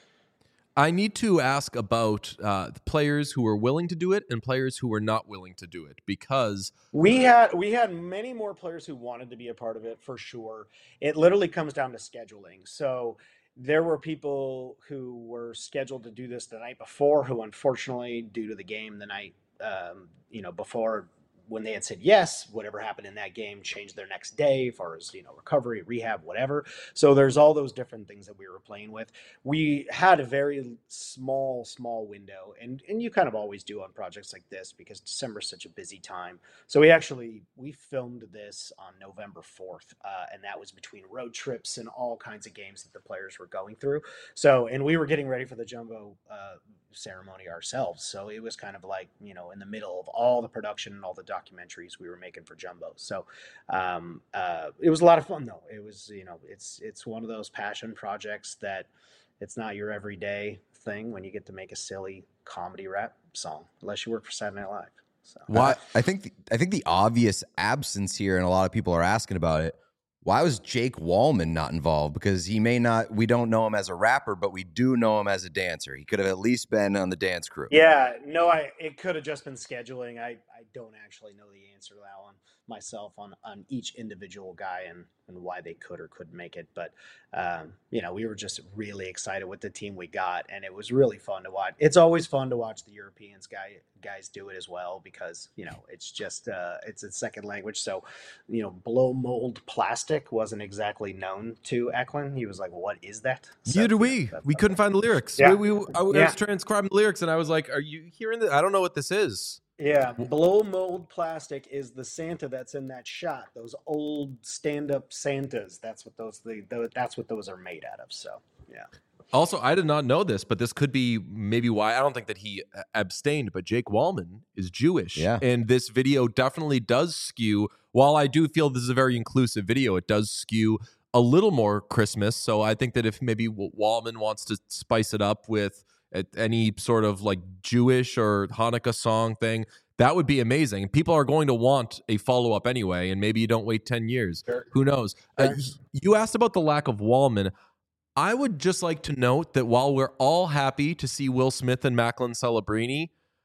I need to ask about uh, the players who were willing to do it and players who were not willing to do it because We had we had many more players who wanted to be a part of it for sure. It literally comes down to scheduling. So there were people who were scheduled to do this the night before who unfortunately due to the game the night um, you know before when they had said yes, whatever happened in that game changed their next day as far as, you know, recovery, rehab, whatever. So there's all those different things that we were playing with. We had a very small, small window, and, and you kind of always do on projects like this because December is such a busy time. So we actually, we filmed this on November fourth, uh, and that was between road trips and all kinds of games that the players were going through. So, and we were getting ready for the Jumbo uh, ceremony ourselves. So it was kind of like, you know, in the middle of all the production and all the documentaries we were making for Jumbo. So um, uh, it was a lot of fun though. It was, you know, it's, it's one of those passion projects that it's not your everyday thing when you get to make a silly comedy rap song, unless you work for Saturday Night Live. So Why? I think the, I think the obvious absence here, and a lot of people are asking about it. Why was Jake Wallman not involved? Because he may not. We don't know him as a rapper, but we do know him as a dancer. He could have at least been on the dance crew. Yeah, no, I it could have just been scheduling. I, I don't actually know the answer to that one myself on, on each individual guy and, and why they could or couldn't make it. But, um, you know, we were just really excited with the team we got, and it was really fun to watch. It's always fun to watch the Europeans guy guys do it as well because, you know, it's just uh, it's a second language. So, you know, blow mold plastic wasn't exactly known to Eklund. He was like, what is that? So, Neither do we. We couldn't find the lyrics. Yeah. We, we, I was Yeah. transcribing the lyrics, and I was like, "Are you hearing this? I don't know what this is." Yeah, blow mold plastic is the Santa that's in that shot. Those old stand-up Santas. That's what those the, the that's what those are made out of. So yeah. Also, I did not know this, but this could be maybe why I don't think that he abstained. But Jake Wallman is Jewish, Yeah. and this video definitely does skew. While I do feel this is a very inclusive video, it does skew a little more Christmas. So I think that if maybe Wallman wants to spice it up with any sort of like Jewish or Hanukkah song thing, that would be amazing. People are going to want a follow up anyway, and maybe you don't wait ten years. Sure. Who knows? Sure. Uh, you asked about the lack of Wallman. I would just like to note that while we're all happy to see Will Smith and Macklin Celebrini,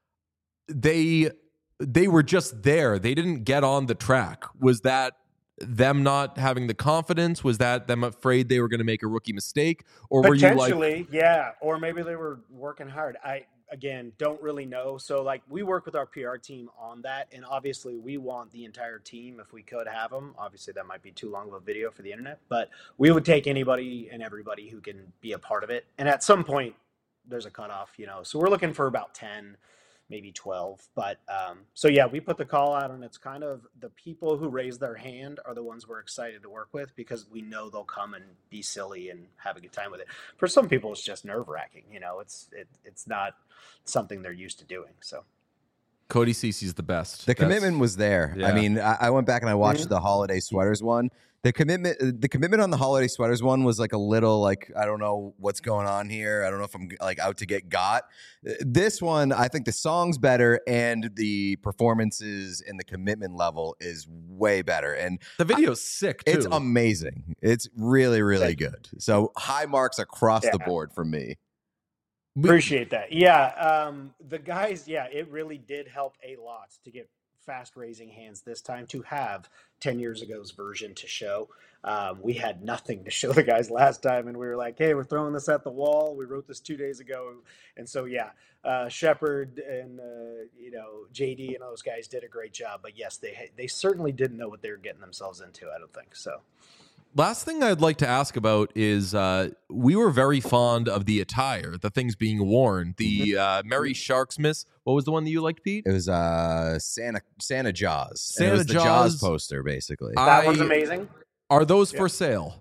they they were just there. They didn't get on the track. Was that them not having the confidence? Was that them afraid they were going to make a rookie mistake? Or were you like, Potentially, yeah. Or maybe they were working hard. I, again, don't really know. So, like, we work with our P R team on that. And obviously, we want the entire team if we could have them. Obviously, that might be too long of a video for the internet. But we would take anybody and everybody who can be a part of it. And at some point, there's a cutoff, you know. So we're looking for about ten, maybe twelve. But um, so yeah, we put the call out, and it's kind of the people who raise their hand are the ones we're excited to work with because we know they'll come and be silly and have a good time with it. For some people, it's just nerve wracking. You know, it's it, it's not something they're used to doing. So. Cody Cece's the best. The That's, commitment was there. yeah. I mean, I, I went back and I watched Mhm. the holiday sweaters one. The commitment, the commitment on the holiday sweaters one was like a little like I don't know what's going on here. I don't know if I'm like out to get got. This one, I think the song's better and the performances and the commitment level is way better. And The video's sick too. it's amazing. It's really, really Thank you. good. So high marks across the Yeah. board for me. Appreciate that. Yeah, um, the guys, yeah, it really did help a lot to get fast raising hands this time to have ten years ago's version to show. Um, we had nothing to show the guys last time, and we were like, hey, we're throwing this at the wall. We wrote this two days ago. And so, yeah, uh, Shepard and, uh, you know, J D and those guys did a great job. But yes, they they certainly didn't know what they were getting themselves into, I don't think. So. Last thing I'd like to ask about is uh, we were very fond of the attire, the things being worn. The uh, Merry Sharksmith. What was the one that you liked, Pete? It was uh Santa Santa Jaws. Santa and it was the Jaws. Jaws poster, basically. That I- one's amazing. Are those Yeah. for sale?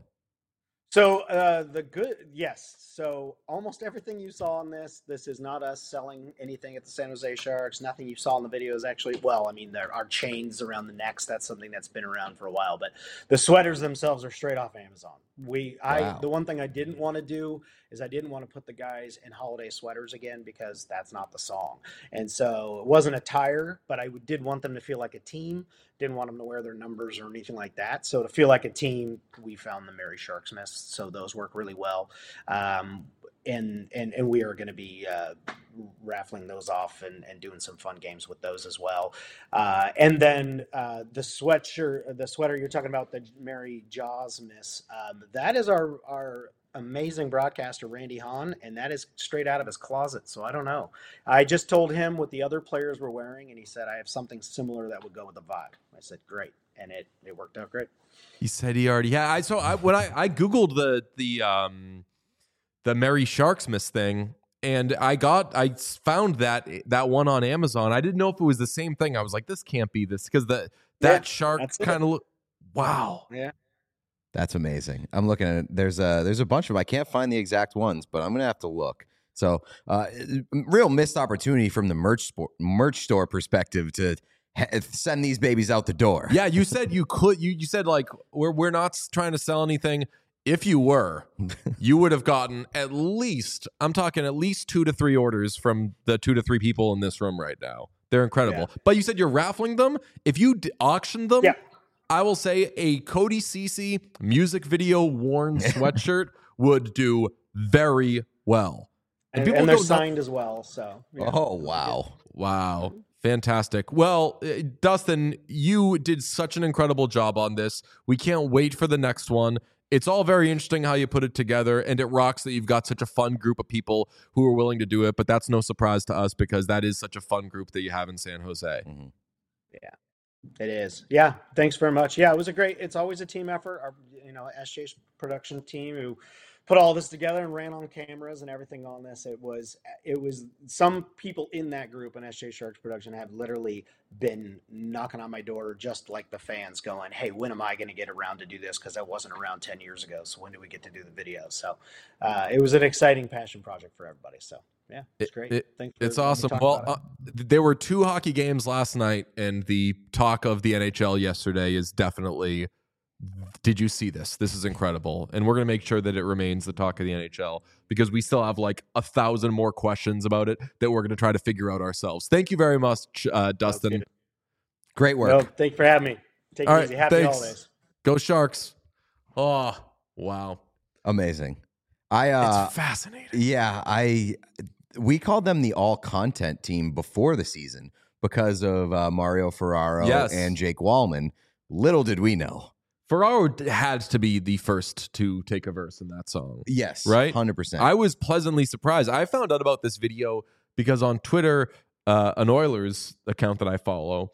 So uh, the good, yes. So almost everything you saw on this, this is not us selling anything at the San Jose Sharks. Nothing you saw in the video is actually, well, I mean, there are chains around the necks. That's something that's been around for a while. But the sweaters themselves are straight off Amazon. We, I, Wow. the one thing I didn't want to do is I didn't want to put the guys in holiday sweaters again because that's not the song. And so it wasn't attire, but I did want them to feel like a team. Didn't want them to wear their numbers or anything like that. So to feel like a team, we found the Merry Sharksmiths. So those work really well. Um, and, and, and we are going to be uh, raffling those off and, and doing some fun games with those as well. Uh, and then uh, the sweatshirt, the sweater you're talking about, the Merry Jawsmiths, um, that is our, our amazing broadcaster, Randy Hahn, and that is straight out of his closet. So I don't know. I just told him what the other players were wearing, and he said, I have something similar that would go with the vibe. I said, great. And it, it worked out great. He said he already had. I so I when I I googled the the um the Merry Sharksmith thing, and I got I found that that one on Amazon. I didn't know if it was the same thing. I was like, this can't be this because the that Yeah, shark that's it. kind of look. Wow. Yeah. That's amazing. I'm looking at it. There's a there's a bunch of them. I can't find the exact ones, but I'm gonna have to look. So, uh, real missed opportunity from the merch sport, merch store perspective to ha- send these babies out the door. Yeah, you said you could. You you said like we're we're not trying to sell anything. If you were, you would have gotten at least. I'm talking at least two to three orders from the two to three people in this room right now. They're incredible. But you said you're raffling them. If you d- auction them, Yeah. I will say a Cody Cece music video worn sweatshirt would do very well. And, people and they're go nuts- signed as well. So, yeah. Oh wow. Wow. Fantastic. Well, uh, Dustin, you did such an incredible job on this. We can't wait for the next one. It's all very interesting how you put it together, and it rocks that you've got such a fun group of people who are willing to do it, but that's no surprise to us because that is such a fun group that you have in San Jose. Mhm. Yeah, it is. Yeah, thanks very much. Yeah, it was a great. It's always a team effort. Our, you know, S J production team who put all this together and ran on cameras and everything on this. It was, it was. Some people in that group in S J Sharks production have literally been knocking on my door, just like the fans, going, "Hey, when am I going to get around to do this? Because I wasn't around ten years ago. So when do we get to do the video?" So uh, it was an exciting passion project for everybody. So yeah, it's great. It- Thanks. For It's letting me awesome. talk Well, about uh, it. there were two hockey games last night, and the talk of the N H L yesterday is definitely. Did you see this? This is incredible, and we're gonna make sure that it remains the talk of the N H L because we still have like a thousand more questions about it that we're gonna try to figure out ourselves. Thank you very much, uh, Dustin. Okay. Great work. No, thank you for having me. Take All it right, easy. Happy thanks. holidays. Go Sharks! Oh wow, Amazing. I uh it's fascinating. yeah, I we called them the all content team before the season because of uh, Mario Ferraro Yes. and Jake Wallman. Little did we know. Ferraro d- had to be the first to take a verse in that song. Yes, Right? one hundred percent. I was pleasantly surprised. I found out about this video because on Twitter, uh, an Oilers account that I follow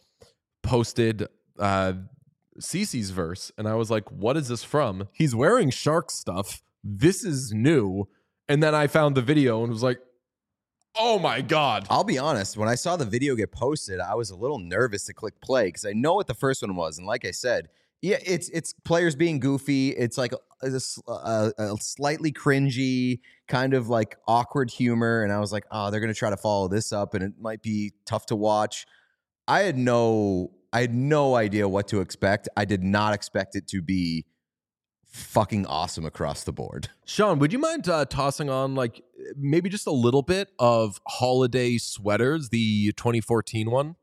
posted uh, Cece's verse, and I was like, "What is this from?" He's wearing shark stuff. This is new. And then I found the video and was like, Oh my God. I'll be honest. When I saw the video get posted, I was a little nervous to click play because I know what the first one was. And like I said, yeah, it's it's players being goofy. It's like a, a, a slightly cringy, kind of like awkward humor. And I was like, oh, they're going to try to follow this up and it might be tough to watch. I had no, I had no idea what to expect. I did not expect it to be fucking awesome across the board. Sean, would you mind uh, tossing on like maybe just a little bit of Holiday Sweaters, the twenty fourteen one?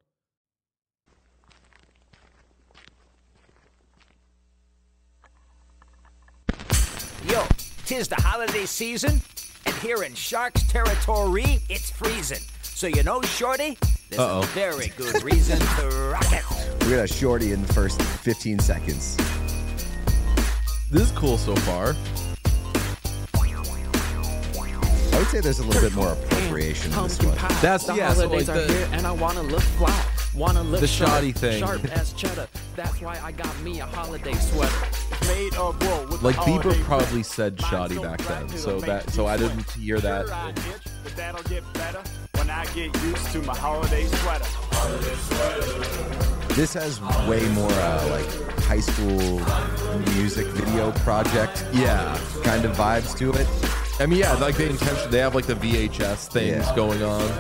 Yo, tis the holiday season, and here in Sharks territory, it's freezing. So you know, Shorty, there's Uh-oh. a very good reason to rock it. We got a shorty in the first fifteen seconds. This is cool so far. I would say there's a little bit more appropriation in this one. That's the yeah, so holidays like are the, here, and I wanna look fly. Wanna look the sharp, shoddy thing. Sharp as cheddar. That's why I got me a holiday sweater. Made of wool with like the Bieber holiday probably said shoddy back then, so that so I didn't hear that. But that'll get better when I get used to my holiday sweater. Holiday sweater. This has way more uh, like high school music video project, yeah, kind of vibes to it. I mean, yeah, like they intention they have like the V H S things Yeah. going on.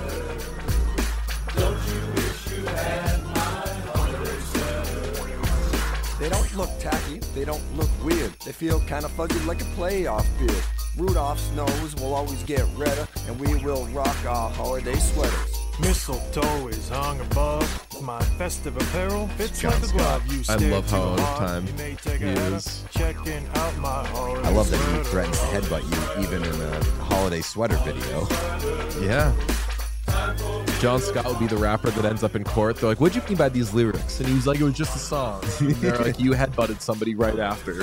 They don't look tacky, they don't look weird. They feel kind of fuzzy like a playoff beard. Rudolph's nose will always get redder, and we will rock our holiday sweaters. Mistletoe is hung above my festive apparel. Fits John like a glove. You I stare love how too out of hard, time you may take he a header. is. Checking out my holiday I love that he sweater. threatens to headbutt you even in a holiday sweater video. Yeah. John Scott would be the rapper that ends up in court. They're like, what'd you mean by these lyrics? And he was like, it was just a song. And they're like, you headbutted somebody right after.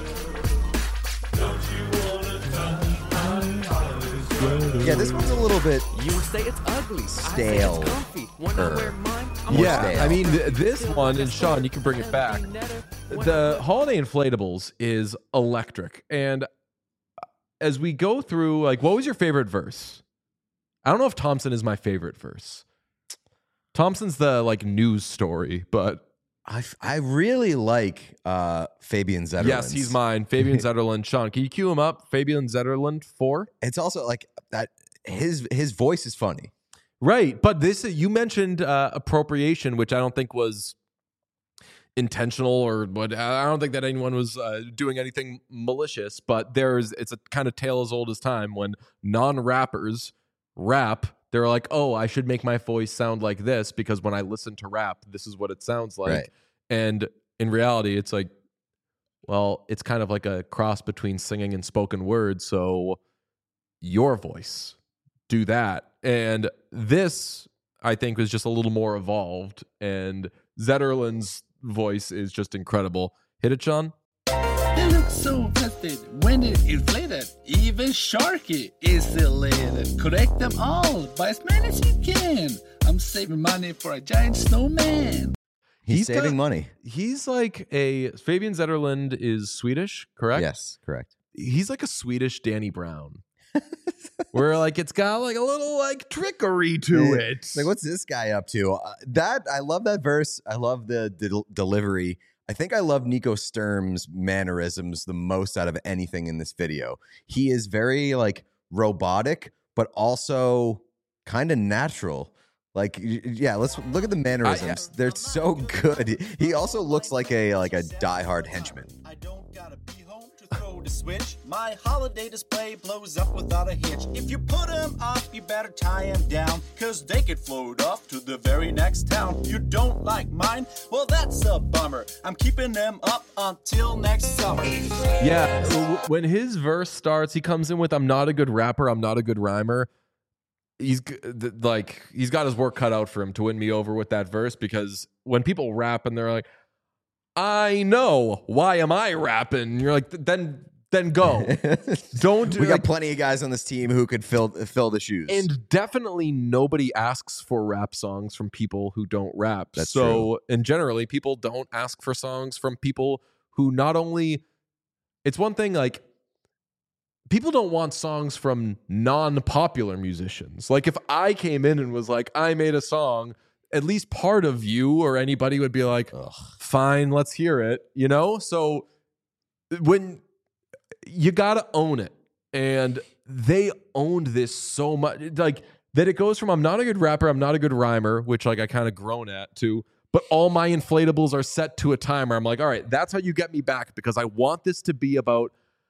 Yeah, this one's a little bit You say it's ugly. stale. I say it's comfy. When I Er, wear mine, I'm more Yeah, stale. I mean, th- this one, and Sean, you can bring it back. The Holiday Inflatables is electric. And as we go through, like, what was your favorite verse? I don't know if Thompson is my favorite verse. Thompson's the, like, news story, but... I, f- I really like uh, Fabian Zetterlund. Yes, he's mine. Fabian Zetterlund. Sean, can you cue him up? Fabian Zetterlund four. It's also like that. His his voice is funny, right? But this you mentioned uh, appropriation, which I don't think was intentional or what. I don't think that anyone was uh, doing anything malicious. But there's it's a kind of tale as old as time when non-rappers rap. They're like, oh, I should make my voice sound like this because when I listen to rap, this is what it sounds like. Right. And in reality, it's like, well, it's kind of like a cross between singing and spoken word. So your voice, do that. And this, I think, was just a little more evolved. And Zetterlund's voice is just incredible. Hit it, Sean. They look so festive when it inflated. Even Sharky is elated. Correct them all by as many as you can. I'm saving money for a giant snowman. He's, He's saving got- money. He's like a Fabian Zetterlund is Swedish, correct? Yes, correct. He's like a Swedish Danny Brown. Where like it's got like a little like trickery to Yeah. it. Like, what's this guy up to? Uh, that I love that verse. I love the del- delivery. I think I love Nico Sturm's mannerisms the most out of anything in this video. He is very like robotic, but also kind of natural. Like, y- yeah, let's look at the mannerisms. They're so good. He also looks like a like a diehard henchman. I don't gotta be home to throw the switch. My holiday display blows up without a hitch. If you put them off, you better tie them down, cause they could float off to the very next town. You don't like mine? Well, that's a bummer. I'm keeping them up until next summer. Yeah, w- when his verse starts, he comes in with "I'm not a good rapper, I'm not a good rhymer." He's g- th- like he's got his work cut out for him to win me over with that verse because when people rap and they're like, "I know, why am I rapping?" You're like, then then go. Don't do We got like, plenty of guys on this team who could fill fill the shoes. and definitely nobody asks for rap songs from people who don't rap. That's so, true. and generally people don't ask for songs from people who not only it's one thing like people don't want songs from non-popular musicians. Like if I came in and was like, I made a song, at least part of you or anybody would be like, fine, let's hear it, you know? So when you got to own it, and they owned this so much, like that it goes from I'm not a good rapper, I'm not a good rhymer, which like I kind of grown at, to but all my inflatables are set to a timer. I'm like, all right, that's how you get me back, because I want this to be about,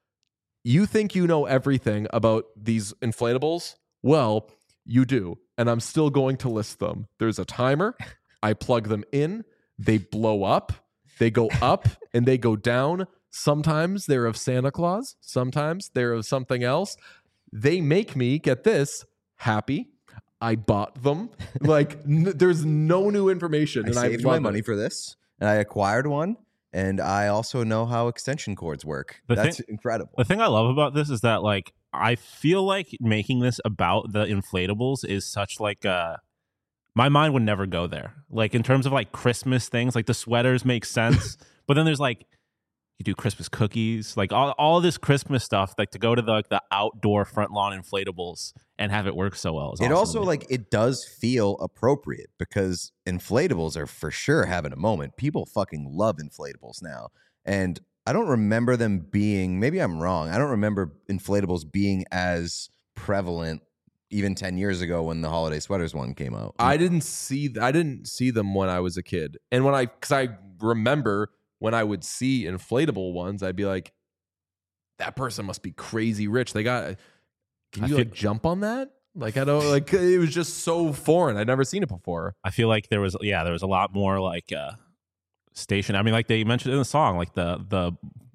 you think you know everything about these inflatables? Well, you do. And I'm still going to list them. There's a timer. I plug them in. They blow up. They go up and they go down. Sometimes they're of Santa Claus. Sometimes they're of something else. They make me, get this, happy. I bought them. Like, n- there's no new information. I and saved I my love money it. for this, and I acquired one, and I also know how extension cords work. The That's thing- incredible. The thing I love about this is that, like, I feel like making this about the inflatables is such like a, my mind would never go there. Like in terms of like Christmas things, like the sweaters make sense, but then there's like, you do Christmas cookies, like all, all this Christmas stuff, like to go to the like the outdoor front lawn inflatables and have it work so well. Is It awesome also to me. like it does feel appropriate because inflatables are for sure having a moment. People fucking love inflatables now, and I don't remember them being. Maybe I'm wrong. I don't remember inflatables being as prevalent even ten years ago when the holiday sweaters one came out. I didn't see I didn't see them when I was a kid. And when I cuz I remember when I would see inflatable ones, I'd be like, that person must be crazy rich. They got Can I you feel- like jump on that? Like I don't like it was just so foreign. I'd never seen it before. I feel like there was yeah, there was a lot more like uh station. I mean, like they mentioned in the song, like the the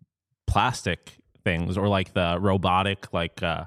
plastic things or like the robotic like uh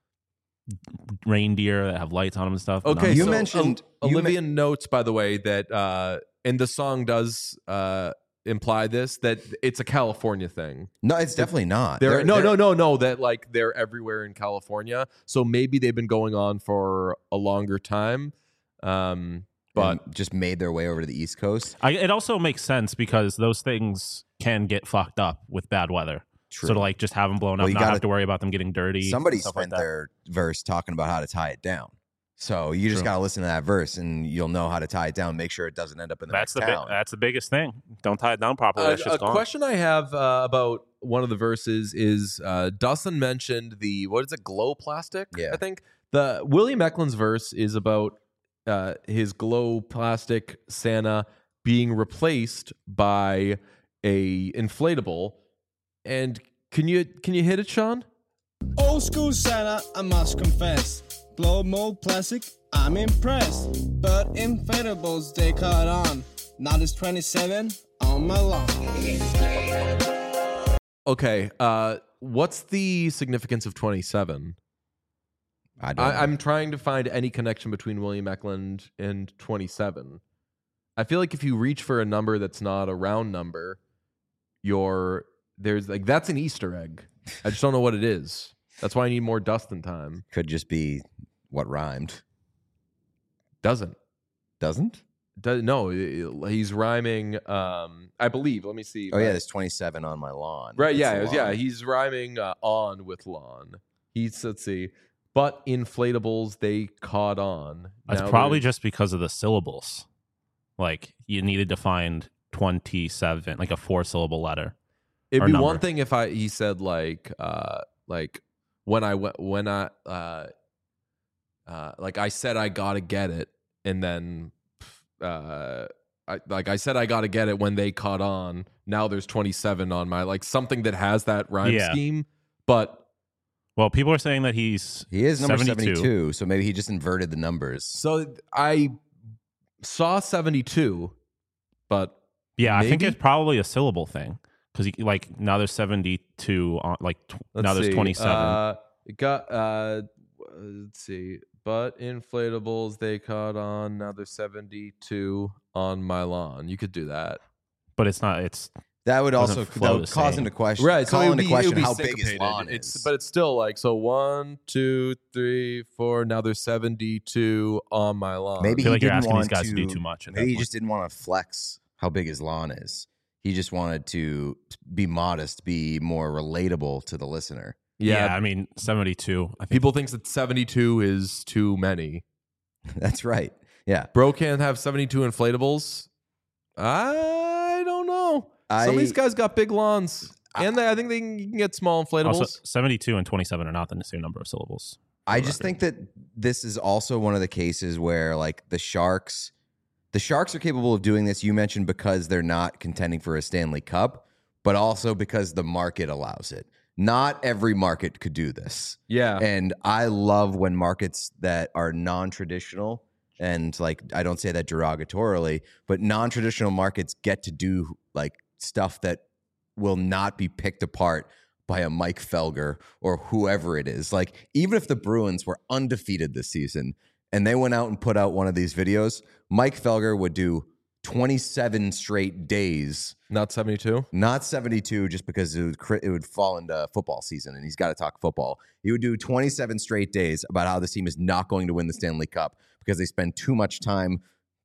reindeer that have lights on them and stuff. But Okay, not- You so mentioned- Ol- you Olivia notes, by the way, that uh and the song does uh imply this, that it's a California thing. No, it's definitely not. They're, They're- no, they're- no, no, no. That like they're everywhere in California. So maybe they've been going on for a longer time. Um, but and just made their way over to the East Coast. I, it also makes sense because those things can get fucked up with bad weather. True. So to like just have them blown Well, up, you not gotta- have to worry about them getting dirty. Somebody and stuff spent like that. their verse talking about how to tie it down. So you just True. got to listen to that verse, and you'll know how to tie it down. Make sure it doesn't end up in the That's the next bi- town. that's the biggest thing. Don't tie it down properly. Uh, that shit's a gone. question I have uh, about one of the verses is uh, Dustin mentioned the what is it, glow plastic? Yeah. I think the William Eklund's verse is about uh, his glow plastic Santa being replaced by a inflatable. And can you can you hit it, Sean? Old school Santa, I must confess. Glow mold plastic, I'm impressed. But inflatables, they caught on. Now there's twenty-seven on my lawn. Okay, uh, what's the significance of twenty-seven? I don't. I, I'm trying to find any connection between William Eklund and twenty-seven. I feel like if you reach for a number that's not a round number, you're there's like that's an Easter egg. I just don't know what it is. That's why I need more Dustin time. Could just be what rhymed. Doesn't Doesn't? Do, no? He's rhyming. Um, I believe. Let me see. Oh yeah, there's twenty-seven on my lawn. Right. Yeah. It's it a was- yeah. lawn. He's rhyming uh, on with lawn. He's let's see. But inflatables, they caught on. That's Now probably there's- just because of the syllables. Like you needed to find twenty-seven, like a four-syllable letter. It'd or be number. one thing if I he said like uh like when I went when I uh uh like I said I gotta get it, and then uh I like I said I gotta get it when they caught on. Now there's twenty-seven on my like something that has that rhyme Yeah. scheme. But Well, people are saying that he's He is number seventy-two. seventy-two, so maybe he just inverted the numbers. so I saw seventy-two, but Yeah, I think maybe? it's probably a syllable thing because like now there's seventy-two on like tw- Let's now there's see. twenty-seven. Uh, it got uh, let's see. But inflatables, they caught on. Now there's seventy-two on my lawn. You could do that, but it's not. It's That would doesn't also flow that the would cause same. into question, right? So call it would into be, it question would be how big his syncopated. lawn It's is. but it's still like so. One, two, three, four. Now there's seventy-two on my lawn. Maybe feel he like you're didn't asking want these guys to, to do too much at that Maybe he point. just didn't want to flex how big his lawn is. He just wanted to be modest, be more relatable to the listener. Yeah, Yeah, I mean seventy-two. I think people think that seventy-two is too many. That's right. Yeah. Bro can't have seventy-two inflatables. I don't know. I, Some of these guys got big lawns. And they, I think they can, you can get small inflatables. also seventy-two and twenty-seven are not the same number of syllables. I just think that this is also one of the cases where like the Sharks, the Sharks are capable of doing this. You mentioned because they're not contending for a Stanley Cup, but also because the market allows it. Not every market could do this. Yeah. And I love when markets that are non-traditional, and like I don't say that derogatorily, but non-traditional markets get to do like stuff that will not be picked apart by a Mike Felger or whoever it is. Like, even if the Bruins were undefeated this season and they went out and put out one of these videos, Mike Felger would do twenty-seven straight days. Not seventy-two? Not seventy-two, just because it would, it would fall into football season and he's got to talk football. He would do twenty-seven straight days about how this team is not going to win the Stanley Cup because they spend too much time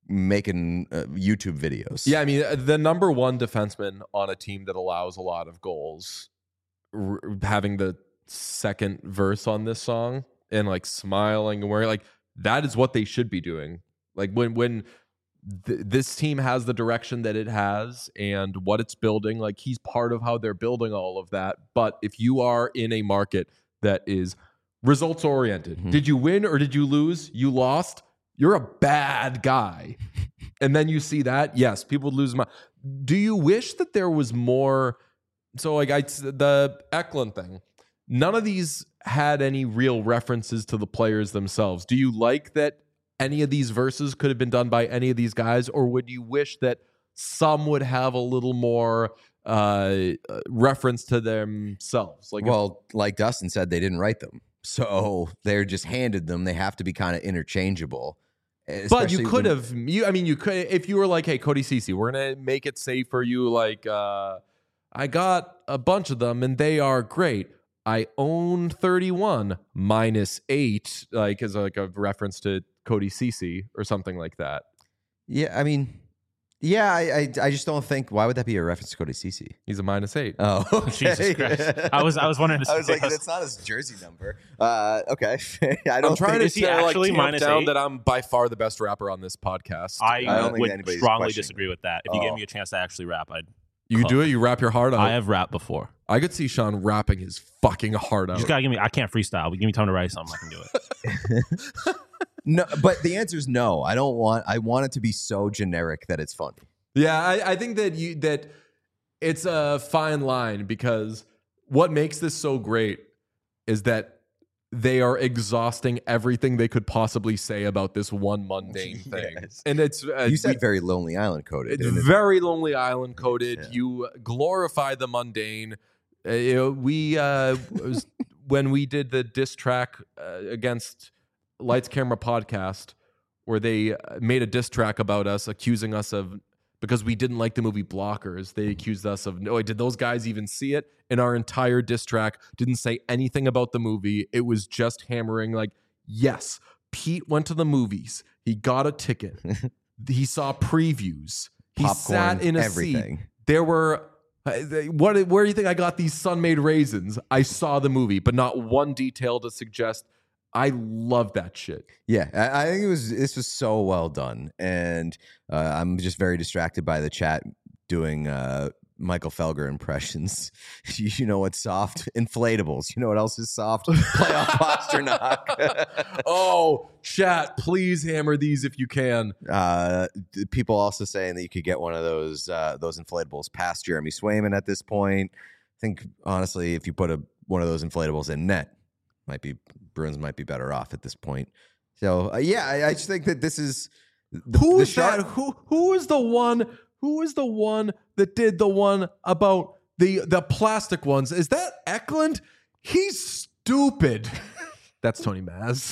making uh, YouTube videos. Yeah, I mean, the number one defenseman on a team that allows a lot of goals, r- having the second verse on this song and like smiling and wearing like that is what they should be doing. Like when when th- this team has the direction that it has and what it's building, like he's part of how they're building all of that. But if you are in a market that is results oriented, mm-hmm. did you win or did you lose? You lost. You're a bad guy. And then you see that, yes, people would lose my. Do you wish that there was more? So like I, the Eklund thing, none of these had any real references to the players themselves. Do you like that any of these verses could have been done by any of these guys, or would you wish that some would have a little more uh, reference to themselves? Like, well, like Dustin said, they didn't write them, so they're just handed them. They have to be kind of interchangeable. But you could have, you. I mean, you could if you were like, "Hey, Cody Ceci, we're gonna make it safe for you." Like, uh, I got a bunch of them, and they are great. I own thirty-one minus eight, like as like a reference to Cody Ceci or something like that. Yeah, I mean, yeah, I, I, I just don't think. Why would that be a reference to Cody Ceci? He's a minus eight. Oh, okay. Jesus Christ! I was, I was wondering. I was like, that's not his jersey number. Uh, okay, I don't. I'm trying think to say actually like, minus down eight? That I'm by far the best rapper on this podcast. I, I don't would think strongly disagree with that. If you oh. gave me a chance to actually rap, I'd. You do it. You rap your heart out. I have rapped before. I could see Sean rapping his fucking heart out. You just gotta give me. I can't freestyle. But give me time to write something. I can do it. No, but the answer is no. I don't want. I want it to be so generic that it's funny. Yeah, I, I think that you that it's a fine line because what makes this so great is that they are exhausting everything they could possibly say about this one mundane thing. Yes. And it's uh, you said we, very Lonely Island coded. It's very Lonely Island coded. Yeah. You glorify the mundane. Uh, you know, we uh, was, when we did the diss track uh, against Lights Camera Podcast, where they made a diss track about us, accusing us of. Because we didn't like the movie Blockers, they accused us of, no, did those guys even see it? And our entire diss track didn't say anything about the movie. It was just hammering like, yes, Pete went to the movies. He got a ticket. He saw previews. He Popcorn, sat in a everything. seat. There were, what? Where do you think I got these Sun-Made raisins? I saw the movie, but not one detail to suggest. I love that shit. Yeah, I, I think it was. This was so well done, and uh, I'm just very distracted by the chat doing uh, Michael Felger impressions. you, you know what's soft? Inflatables. You know what else is soft? Playoff Pasternak. Oh, chat! Please hammer these if you can. Uh, people also saying that you could get one of those uh, those inflatables past Jeremy Swayman at this point. I think honestly, if you put a one of those inflatables in net. Might be Bruins might be better off at this point. So uh, yeah, I, I just think that this is the, who the is Shark- that? Who who is the one? Who is the one that did the one about the the plastic ones? Is that Eklund? He's stupid. That's Tony Maz.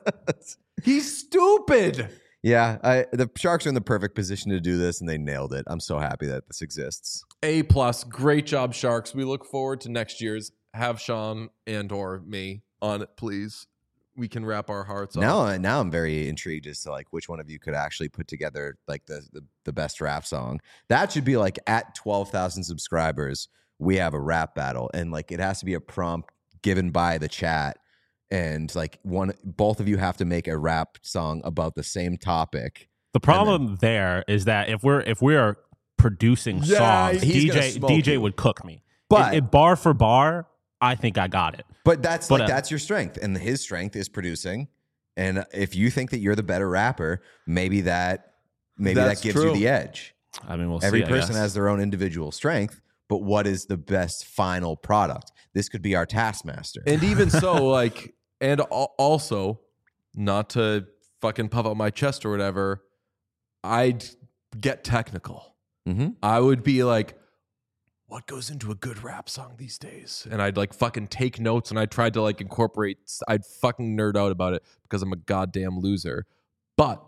He's stupid. Yeah, I, the Sharks are in the perfect position to do this, and they nailed it. I'm so happy that this exists. A plus, great job, Sharks. We look forward to next year's. Have Sean and or me on it, please. We can wrap our hearts off. Now, now I'm very intrigued as to like which one of you could actually put together like the the, the best rap song. That should be like at twelve thousand subscribers, we have a rap battle, and like it has to be a prompt given by the chat, and like one, both of you have to make a rap song about the same topic. The problem there is that if we're if we are producing Yeah, songs, he's gonna D J smoke D J you. would cook me. But- It- it bar for bar, I think I got it. But that's But, like uh, that's your strength, and his strength is producing. And if you think that you're the better rapper, maybe that maybe That's that gives true. you the edge. I mean, we'll Every see. I person guess. has their own individual strength, but what is the best final product? This could be our taskmaster. And even so, like, and al- also, not to fucking puff out my chest or whatever, I'd get technical. Mm-hmm. I would be like, what goes into a good rap song these days? And I'd like fucking take notes, and I tried to like incorporate, I'd fucking nerd out about it because I'm a goddamn loser. But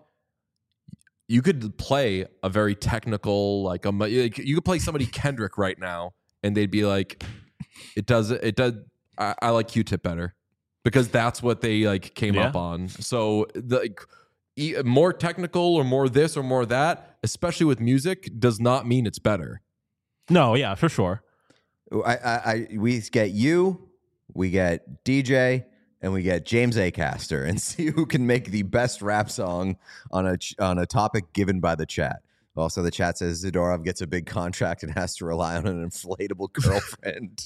you could play a very technical, like, a, like you could play somebody Kendrick right now, and they'd be like, it does, it does, I, I like Q-Tip better because that's what they like came Yeah. up on. So the like, e- more technical or more this or more that, especially with music, does not mean it's better. No, yeah, for sure. I, I, I we get you, we get D J, and we get James Acaster, and see who can make the best rap song on a ch- on a topic given by the chat. Also, the chat says Zadorov gets a big contract and has to rely on an inflatable girlfriend.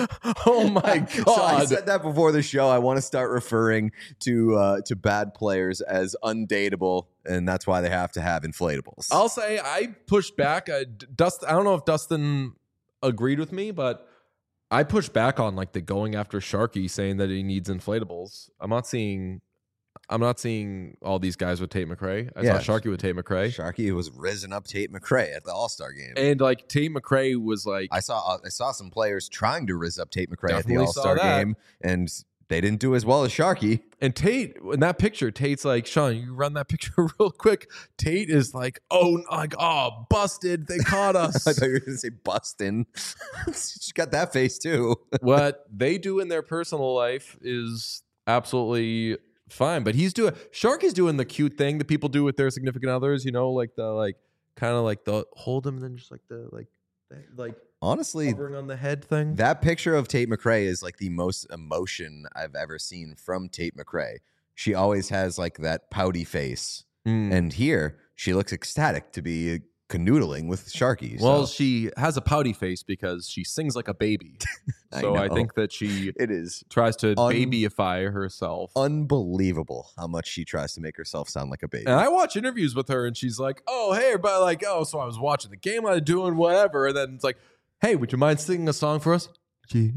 Oh my god! So I said that before the show. I want to start referring to uh, to bad players as undateable, and that's why they have to have inflatables. I'll say I pushed back. I, Dust, I don't know if Dustin agreed with me, but I pushed back on like the going after Sharky, saying that he needs inflatables. I'm not seeing, I'm not seeing all these guys with Tate McRae. I Yeah. saw Sharky with Tate McRae, Sharky was risen up Tate McRae at the All Star game. and like Tate McRae was like, I saw I saw some players trying to riz up Tate McRae at the Definitely All saw Star that. game, and they didn't do as well as Sharky. and Tate in that picture, Tate's like, Sean, you run that picture real quick. Tate is like, oh, like, oh, busted, they caught us. I thought you were going to say bustin'. She got that face too. What they do in their personal life is absolutely fine, but he's doing Sharky's doing the cute thing that people do with their significant others, you know, like the like kind of like the hold him and then just like the like like Honestly, hovering on the head thing. that picture of Tate McRae is like the most emotion I've ever seen from Tate McRae. She always has like that pouty face, Mm. and here she looks ecstatic to be canoodling with Sharky. Well, so she has a pouty face because she sings like a baby. I So I, know. think that she it is tries to un- babyify herself. unbelievable how much she tries to make herself sound like a baby. And I watch interviews with her, and she's like, "Oh, hey, everybody!" Like, "Oh, so I was watching the game, I was doing whatever," and then it's like, "Hey, would you mind singing a song for us?" Yeah.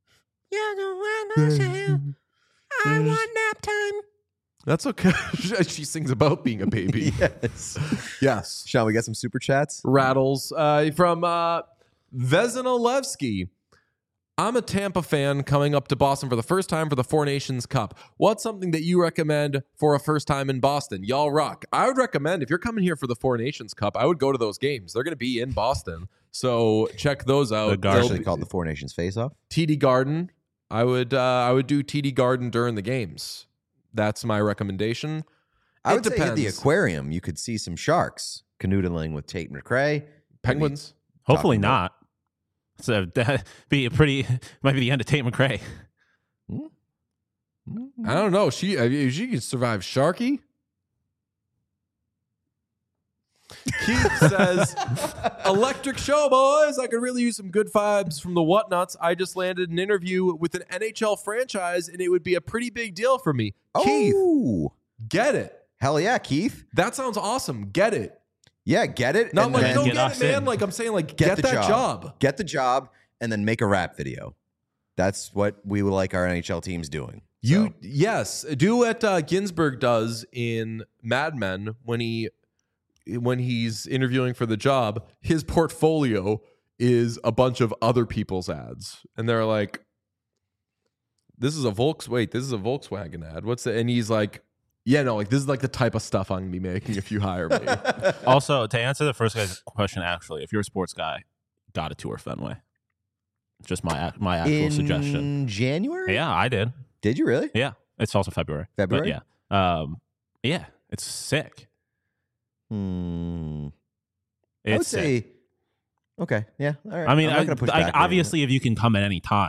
I want nap time. That's okay. She sings about being a baby. yes. Yes. Sean, we got some super chats. Rattles uh, from uh, Vezinolevsky. I'm a Tampa fan coming up to Boston for the first time for the Four Nations Cup. What's something that you recommend for a first time in Boston? Y'all rock. I would recommend if you're coming here for the Four Nations Cup, I would go to those games. They're going to be in Boston. So check those out. It's They'll actually be- called the Four Nations Face Off. T D Garden. I would uh, I would do T D Garden during the games. That's my recommendation. I It would say at the depends. aquarium, you could see some sharks canoodling with Tate McRae. Penguins. Hopefully Talking about- not. So that be a pretty might be the end of Tate McRae. I don't know. She I mean, she could survive Sharky. Keith says, "Electric show, boys. I could really use some good vibes from the Whatnuts. I just landed an interview with an N H L franchise, and it would be a pretty big deal for me." Keith, Oh, get it? hell yeah, Keith. That sounds awesome. Get it? Yeah, get it. Not and like then go get get, us it, man. in. Like I'm saying, like get get, the that job. job. Get the job, and then make a rap video. That's what we would like our N H L teams doing. You So, yes, do what uh, Ginsburg does in Mad Men when he when he's interviewing for the job. His portfolio is a bunch of other people's ads, and they're like, "This is a Volks. Wait, this is a Volkswagen ad. What's it?" And he's like, "Yeah, no, like this is like the type of stuff I'm gonna be making if you hire me." Also, to answer the first guy's question, actually, if you're a sports guy, gotta tour Fenway. Just my ac- my actual in suggestion. January? Yeah, I did. Did you really? Yeah, it's also February. but February? yeah, um, yeah, it's sick. Hmm. I would It's sick. say. Okay. Yeah. All right. I mean, I'm not I, gonna push like, back on you. obviously, if you can come at any time,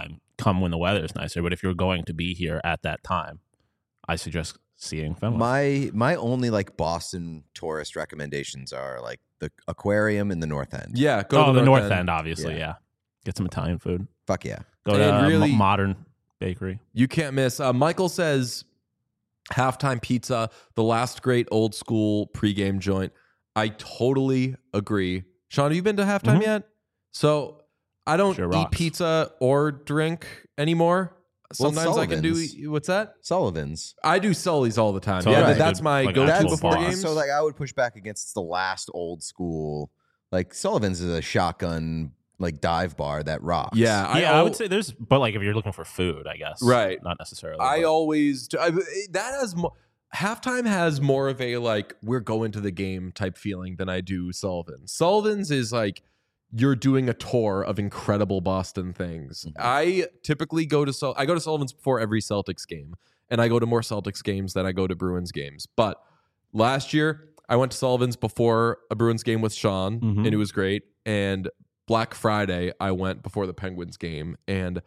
come when the weather is nicer. But if you're going to be here at that time, I suggest seeing Fenway. My my only like Boston tourist recommendations are like the aquarium in the North End. Yeah, go oh, to the, the North, North End, End, obviously. Yeah. yeah, get some Italian food. Fuck yeah, go to a really, modern bakery. You can't miss. Uh, Michael says halftime pizza, the last great old school pregame joint. I totally agree. Sean, have you been to halftime mm-hmm. yet? So I don't sure eat rocks. pizza or drink anymore. Sometimes well, I can do what's that? Sullivan's. I do Sully's all the time. Sully's yeah, right. that's my like go-to before boss. games. So like I would push back against the last old school. Like Sullivan's is a shotgun like dive bar that rocks. Yeah, I, yeah, I would say there's, but like if you're looking for food, I guess, right? Not necessarily. I but. always do, I, that has more. Halftime has more of a like we're going to the game type feeling than I do Sullivan's. Sullivan's is like you're doing a tour of incredible Boston things. Mm-hmm. I typically go to Sul- I go to Sullivan's before every Celtics game, and I go to more Celtics games than I go to Bruins games. But last year I went to Sullivan's before a Bruins game with Sean, mm-hmm. and it was great. And Black Friday I went before the Penguins game, and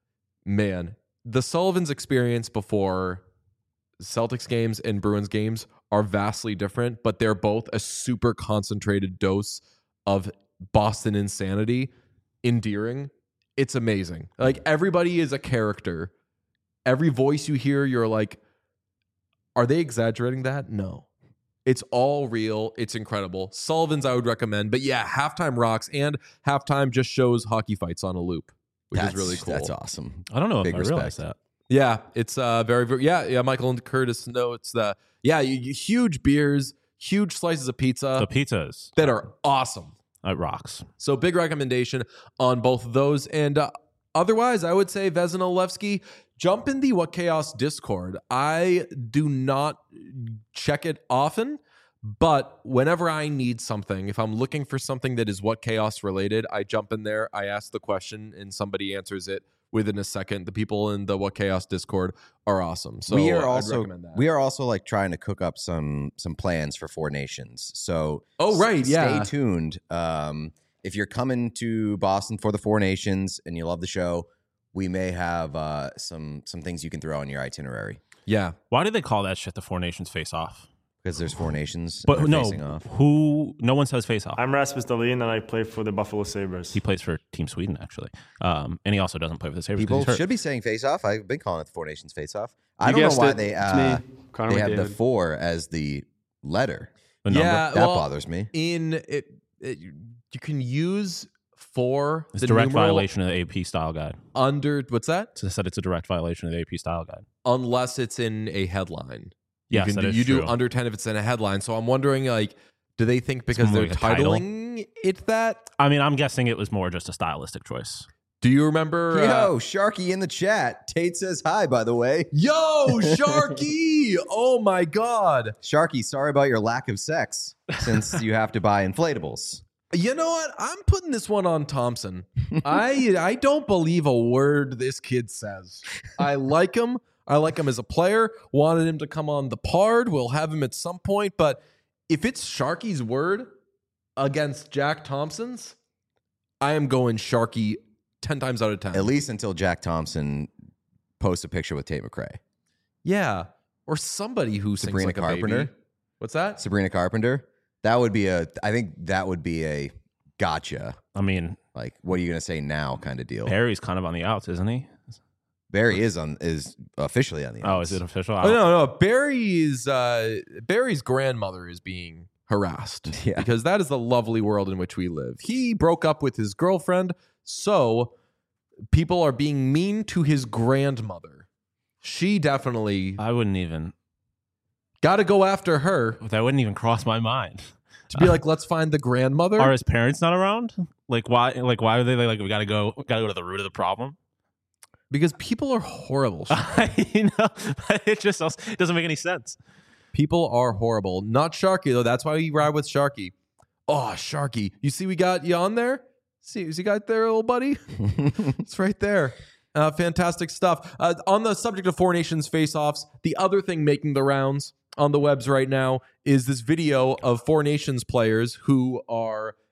man, the Sullivan's experience before Celtics games and Bruins games are vastly different, but they're both a super concentrated dose of Boston insanity, endearing. It's amazing. Like everybody is a character. Every voice you hear, you're like, are they exaggerating that? No. It's all real. It's incredible. Sullivan's I would recommend. But yeah, halftime rocks, and halftime just shows hockey fights on a loop, which that's, is really cool. That's awesome. I don't know Big if I respect. realized that. Yeah, it's uh very, very yeah yeah. Michael and Curtis know it's the yeah you, you, huge beers, huge slices of pizza. The pizzas that are awesome. It rocks. So big recommendation on both of those. And uh, otherwise, I would say Vezina Levski, jump in the What Chaos Discord. I do not check it often, but whenever I need something, if I'm looking for something that is What Chaos related, I jump in there, I ask the question, and somebody answers it within a second. The people in the What Chaos Discord are awesome. So we are I'd also recommend that. we are also like trying to cook up some some plans for Four Nations. So oh right, s- yeah. Stay tuned. Um, if you're coming to Boston for the Four Nations and you love the show, we may have uh, some some things you can throw on your itinerary. Yeah. Why do they call that shit the Four Nations Face Off? Because there's Four Nations, but and no, facing off. who? No one says face off. I'm Rasmus Dahlin, and I play for the Buffalo Sabres. He plays for Team Sweden, actually, um, and he also doesn't play for the Sabres. People should be saying face off. I've been calling it the Four Nations face off. I You don't know guessed why it. they It's uh, me, Connor they have the McDavid. four as the letter. The number. Yeah, That well, bothers me. In it, it, you can use four. It's the a direct numeral violation of the A P style guide. under what's that? So I said it's a direct violation of the A P style guide. Unless it's in a headline. Yes, you can that do, is you do true. under ten if it's in a headline. So I'm wondering, like, do they think because more they're like a title? titling it that? I mean, I'm guessing it was more just a stylistic choice. Do you remember? Yo, uh, Sharky in the chat. Tate says hi, by the way. Yo, Sharky! Oh my God, Sharky, sorry about your lack of sex since you have to buy inflatables. You know what? I'm putting this one on Thompson. I I don't believe a word this kid says. I like him. I like him as a player. Wanted him to come on the Pard. We'll have him at some point. But if it's Sharky's word against Jack Thompson's, I am going Sharky ten times out of ten. At least until Jack Thompson posts a picture with Tate McRae. Yeah. Or somebody who Sabrina sings like Carpenter. a baby. What's that? Sabrina Carpenter. That would be a, I think that would be a gotcha. I mean, like, what are you going to say now kind of deal? Barry's kind of on the outs, isn't he? Barry is on is officially on the outs. Oh, is it official? Oh, no, no. Barry's, uh, Barry's grandmother is being harassed Yeah. because that is the lovely world in which we live. He broke up with his girlfriend, so people are being mean to his grandmother. She definitely I wouldn't even. got to go after her That wouldn't even cross my mind. to be like, let's find the grandmother. Are his parents not around? Like why? Like why are they like? We gotta go. We gotta go to the root of the problem. Because people are horrible. you know, it just it doesn't make any sense. People are horrible. Not Sharky, though. That's why we ride with Sharky. Oh, Sharky. You see we got you on there? See, see got there, little buddy? It's right there. Uh, fantastic stuff. Uh, on the subject of Four Nations face-offs, the other thing making the rounds on the webs right now is this video of Four Nations players who are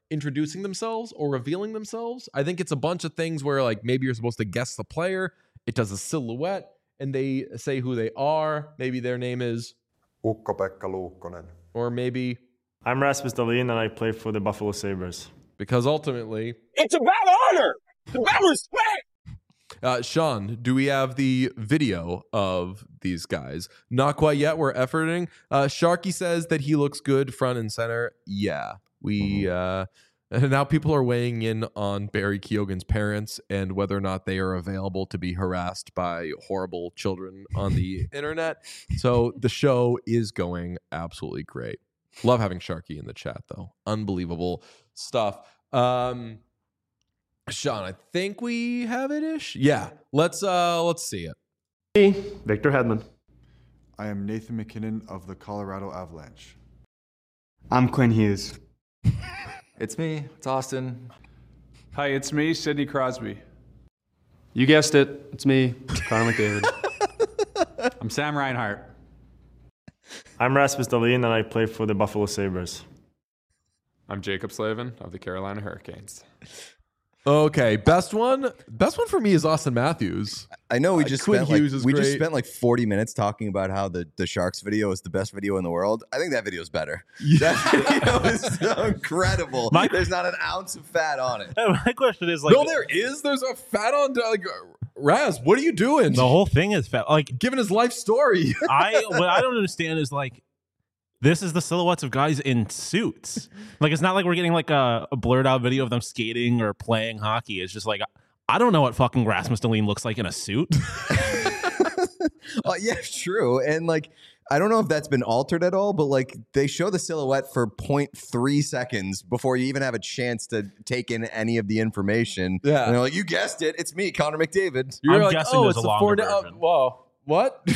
introducing themselves or revealing themselves. I think it's a bunch of things where like maybe you're supposed to guess the player. It does a silhouette and they say who they are. Maybe their name is Ukko-Pekka Luukkonen. Or maybe I'm Rasmus Dahlin and I play for the Buffalo Sabres. Because ultimately it's about honor. It's about respect. Uh, Sean, do we have the video of these guys? Not quite yet. We're efforting. Uh, Sharky says that he looks good front and center. Yeah, we uh, and now people are weighing in on Barry Keoghan's parents and whether or not they are available to be harassed by horrible children on the internet. So the show is going absolutely great. Love having Sharky in the chat, though. Unbelievable stuff. Um, Sean, I think we have it ish. Yeah, let's uh, let's see it. Me, Victor Hedman. I am Nathan McKinnon of the Colorado Avalanche. I'm Quinn Hughes. It's me. It's Austin. Hi, it's me, Sidney Crosby. You guessed it. It's me, Connor McDavid. I'm Sam Reinhart. I'm Rasmus Dahlin and I play for the Buffalo Sabres. I'm Jacob Slavin of the Carolina Hurricanes. Okay, best one. Best one for me is Austin Matthews. I know we just uh, Quinn spent Hughes like, is we great. just spent like forty minutes talking about how the, the Sharks video is the best video in the world. I think that video is better. Yeah. That video is so incredible. My- There's not an ounce of fat on it. My question is like, no, there is. There's a fat on. Like, Raz, what are you doing? the whole thing is fat. Like, Giving his life story. I what I don't understand is like, this is the silhouettes of guys in suits. Like, it's not like we're getting like a, a blurred out video of them skating or playing hockey. It's just like, I don't know what fucking Rasmus Dahlin looks like in a suit. Uh, yeah, true. And like, I don't know if that's been altered at all, but like they show the silhouette for zero point three seconds before you even have a chance to take in any of the information. Yeah. And they're like, you guessed it. It's me, Connor McDavid. You're I'm like, guessing oh, there's it's a a longer four. version. Uh, whoa, what?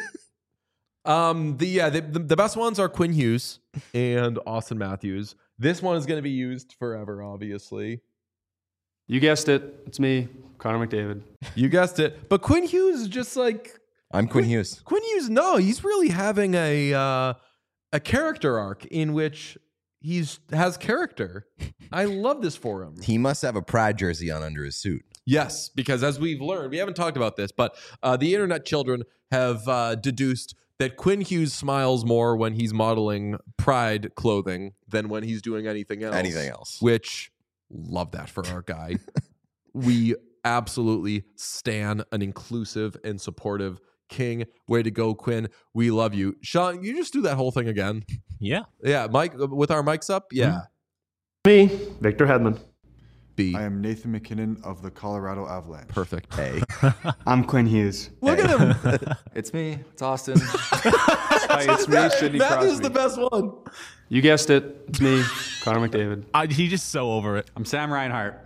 um, the yeah, the, the, the best ones are Quinn Hughes and Austin Matthews. This one is going to be used forever, obviously. You guessed it. It's me, Connor McDavid. You guessed it. But Quinn Hughes is just like I'm Quinn Hughes. Quinn Hughes. No, he's really having a uh, a character arc in which he's has character. I love this for him. He must have a Pride jersey on under his suit. Yes, because as we've learned, we haven't talked about this, but uh, the internet children have uh, deduced that Quinn Hughes smiles more when he's modeling Pride clothing than when he's doing anything else. Anything else. Which, love that for our guy. We absolutely stan an inclusive and supportive king. Way to go, Quinn. We love you. Sean, you just do that whole thing again. Yeah. Yeah, Mike, with our mics up? Yeah. Me, Victor Hedman. B. I am Nathan McKinnon of the Colorado Avalanche. Perfect. A. I'm Quinn Hughes. Look at him. It's me. It's Austin. Hi, it's me, Sidney Matthew's Crosby. the best one. You guessed it. It's me, Connor McDavid. I, he's just so over it. I'm Sam Reinhart.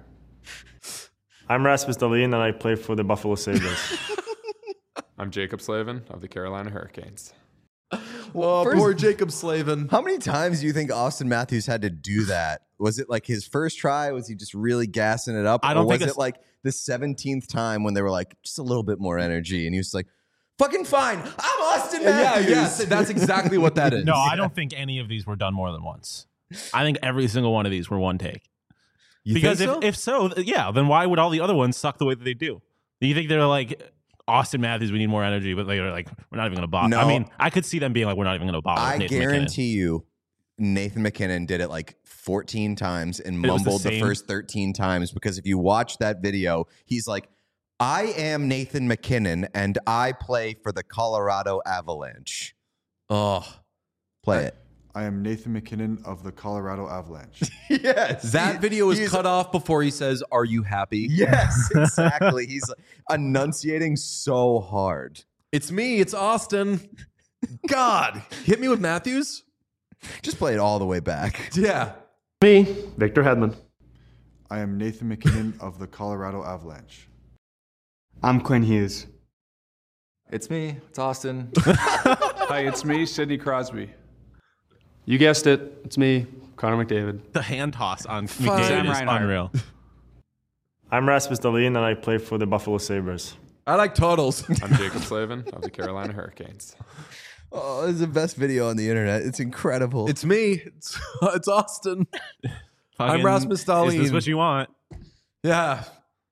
I'm Rasmus Dahlin and I play for the Buffalo Sabres. I'm Jacob Slavin of the Carolina Hurricanes. Oh, First- poor Jacob Slavin. How many times do you think Austin Matthews had to do that? Was it like his first try? Was he just really gassing it up? I don't or was think it it's- like the seventeenth time when they were like, just a little bit more energy? And he was like, fucking fine. I'm Austin Yeah, Matthews. yes, that's exactly what that is. No, I don't think any of these were done more than once. I think every single one of these were one take. You because think if, so? if so, yeah, then why would all the other ones suck the way that they do? You think they're like, Austin Matthews, we need more energy, but they're like, we're not even going to bother. No. I mean, I could see them being like, we're not even going to bother. I with Nathan McKinnon. guarantee you, Nathan McKinnon did it like fourteen times and It was the mumbled the, same- first thirteen times because if you watch that video, he's like, I am Nathan McKinnon and I play for the Colorado Avalanche. Oh, Play it. I am Nathan McKinnon of the Colorado Avalanche. Yes. that He- video is he's- cut off before he says, "Are you happy?" Yes, exactly. He's like, enunciating so hard. It's me. It's Austin. God, hit me with Matthews. Just play it all the way back. Yeah. Me, Victor Hedman. I am Nathan McKinnon of the Colorado Avalanche. I'm Quinn Hughes. It's me. It's Austin. Hi, it's me, Sidney Crosby. You guessed it. It's me, Connor McDavid. The hand toss on Sam McDavid is Reinhart. unreal. I'm Rasmus Dahlin and I play for the Buffalo Sabres. I like totals. I'm Jacob Slavin of the Carolina Hurricanes. Oh, it's the best video on the internet. It's incredible. It's me. It's, it's Austin. I'm Rasmus Dahlin. Is this what you want? Yeah.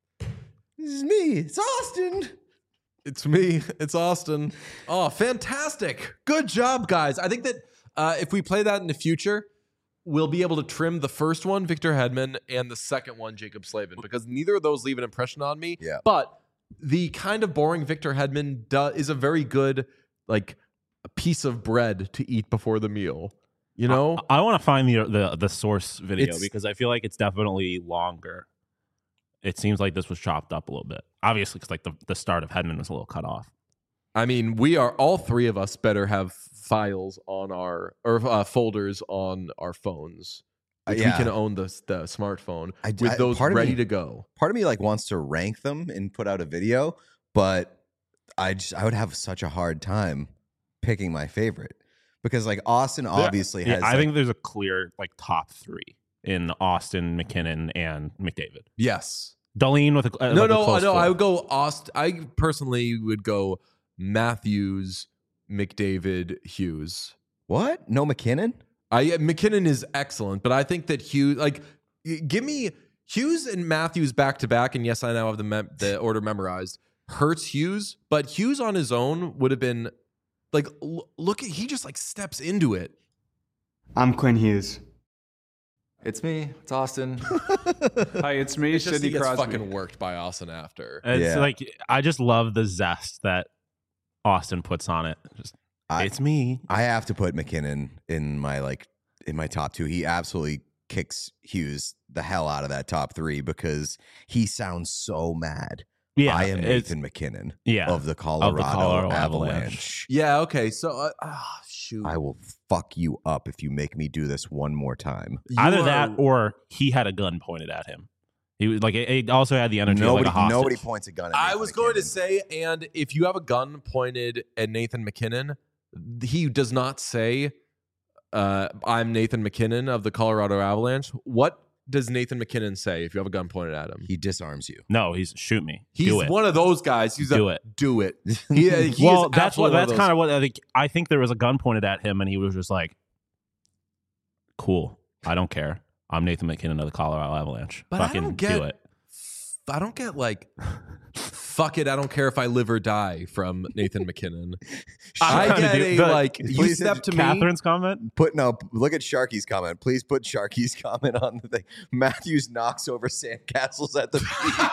This is me. It's Austin. It's me. It's Austin. Oh, fantastic. Good job, guys. I think that uh, if we play that in the future, we'll be able to trim the first one, Victor Hedman, and the second one, Jacob Slavin, because neither of those leave an impression on me. Yeah. But the kind of boring Victor Hedman do- is a very good, like, a piece of bread to eat before the meal. You know? I, I want to find the, the the source video It's- because I feel like it's definitely longer. It seems like this was chopped up a little bit. Obviously, because like the, the start of Hedman was a little cut off. I mean, we are all three of us better have files on our or uh, folders on our phones. Uh, Which yeah. we can own the the smartphone I- with I- those part of ready me- to go. Part of me like wants to rank them and put out a video, but I just I would have such a hard time picking my favorite because like Austin obviously Yeah, has. I like- think there's a clear like top three in Austin, McKinnon, and McDavid. Yes. Darlene with a uh, no, like a no, close no. four. I would go Aust. I personally would go Matthews, McDavid, Hughes. What? No McKinnon? I McKinnon is excellent, but I think that Hughes, like, y- give me Hughes and Matthews back to back. And yes, I now have the mem- the order memorized. Hurts Hughes, but Hughes on his own would have been like, l- look at he just like steps into it. I'm Quinn Hughes. It's me. It's Austin. Hi, it's me, It's just he Sidney gets Crosby. fucking worked by Austin after. It's Yeah. like I just love the zest that Austin puts on it. Just, I- it's me. I have to put McKinnon in my like in my top two. He absolutely kicks Hughes the hell out of that top three because he sounds so mad. Yeah, I am it's- Nathan McKinnon Yeah, of the Colorado, Colorado Avalanche. Avalanche. Yeah. Okay. So, uh, ah, shoot. I will fuck you up if you make me do this one more time. You Either are- that or he had a gun pointed at him. He was like it, it also had the energy Nobody, of like a hostage. nobody points a gun at I Nathan was going to McKinnon. say, and if you have a gun pointed at Nathan McKinnon, he does not say, uh, I'm Nathan McKinnon of the Colorado Avalanche. What does Nathan McKinnon say if you have a gun pointed at him? He disarms you. No, he's shoot me. He's do it. one of those guys. He's Do a, it. Do it. He, he well, is that's what absolutely one that's of kind those- of what I think. I think there was a gun pointed at him, and he was just like, "Cool, I don't care. I'm Nathan McKinnon of the Colorado Avalanche. But I Fucking don't get- do it." I don't get like, fuck it. I don't care if I live or die from Nathan McKinnon. I Trying to get do- a the- like. You please, step to me. Catherine's comment. Put no. Look at Sharky's comment. Please put Sharky's comment on the thing. Matthews knocks over sandcastles at the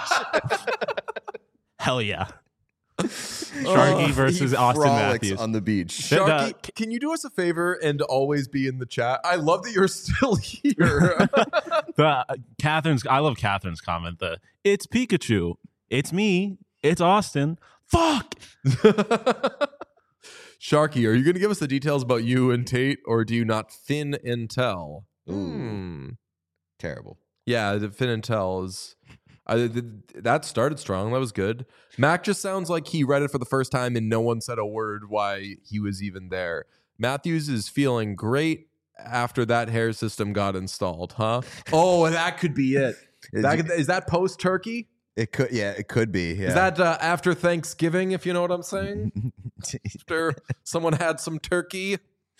beach. Hell yeah. Oh, Sharky versus He Austin frolics Matthews on the beach. Sharky, can you do us a favor and always be in the chat? I love that you're still here. The uh, Catherine's. I love Catherine's comment. The it's Pikachu. It's me. It's Austin. Fuck. Sharky, are you going to give us the details about you and Tate, or do you not fin and tell? Hmm. Terrible. Yeah, the fin and tell is. I, th- that started strong. That was good. Mac just sounds like he read it for the first time and no one said a word why he was even there. Matthews is feeling great after that hair system got installed, huh? Oh, that could be it. Is, That, is that post turkey? it could. Yeah, it could be. Yeah. Is that uh, after Thanksgiving, if you know what I'm saying? After someone had some turkey?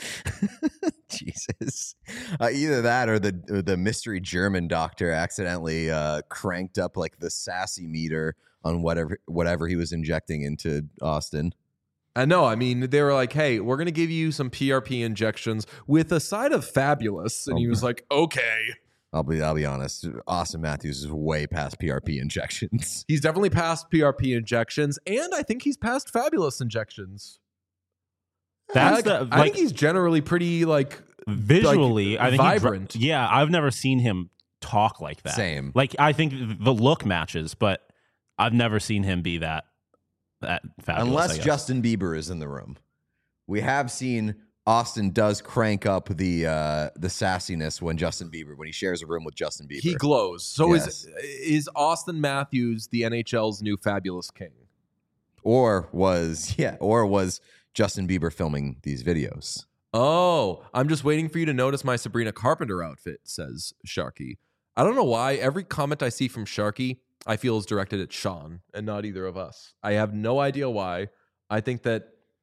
Jesus. Uh, either that or the or the mystery German doctor accidentally uh, cranked up like the sassy meter on whatever whatever he was injecting into Austin. I know. I mean, they were like, hey, we're going to give you some P R P injections with a side of fabulous. And he was like, okay. I'll be I'll be honest. Austin Matthews is way past P R P injections. He's definitely past P R P injections. And I think he's past fabulous injections. That's I, the, I like, think he's generally pretty, like, visually. like, I think he dr- vibrant. yeah, I've never seen him talk like that. Same. Like I think the look matches, but I've never seen him be that that fabulous. I Unless guess. Justin Bieber is in the room. We have seen Austin does crank up the uh, the sassiness when Justin Bieber when he shares a room with Justin Bieber. He glows. So Yes. is is Austin Matthews the N H L's new fabulous king? Or was yeah, or was Justin Bieber filming these videos? Oh, I'm just waiting for you to notice my Sabrina Carpenter outfit, says Sharky. I don't know why. Every comment I see from Sharky, I feel is directed at Sean and not either of us. I have no idea why. I think that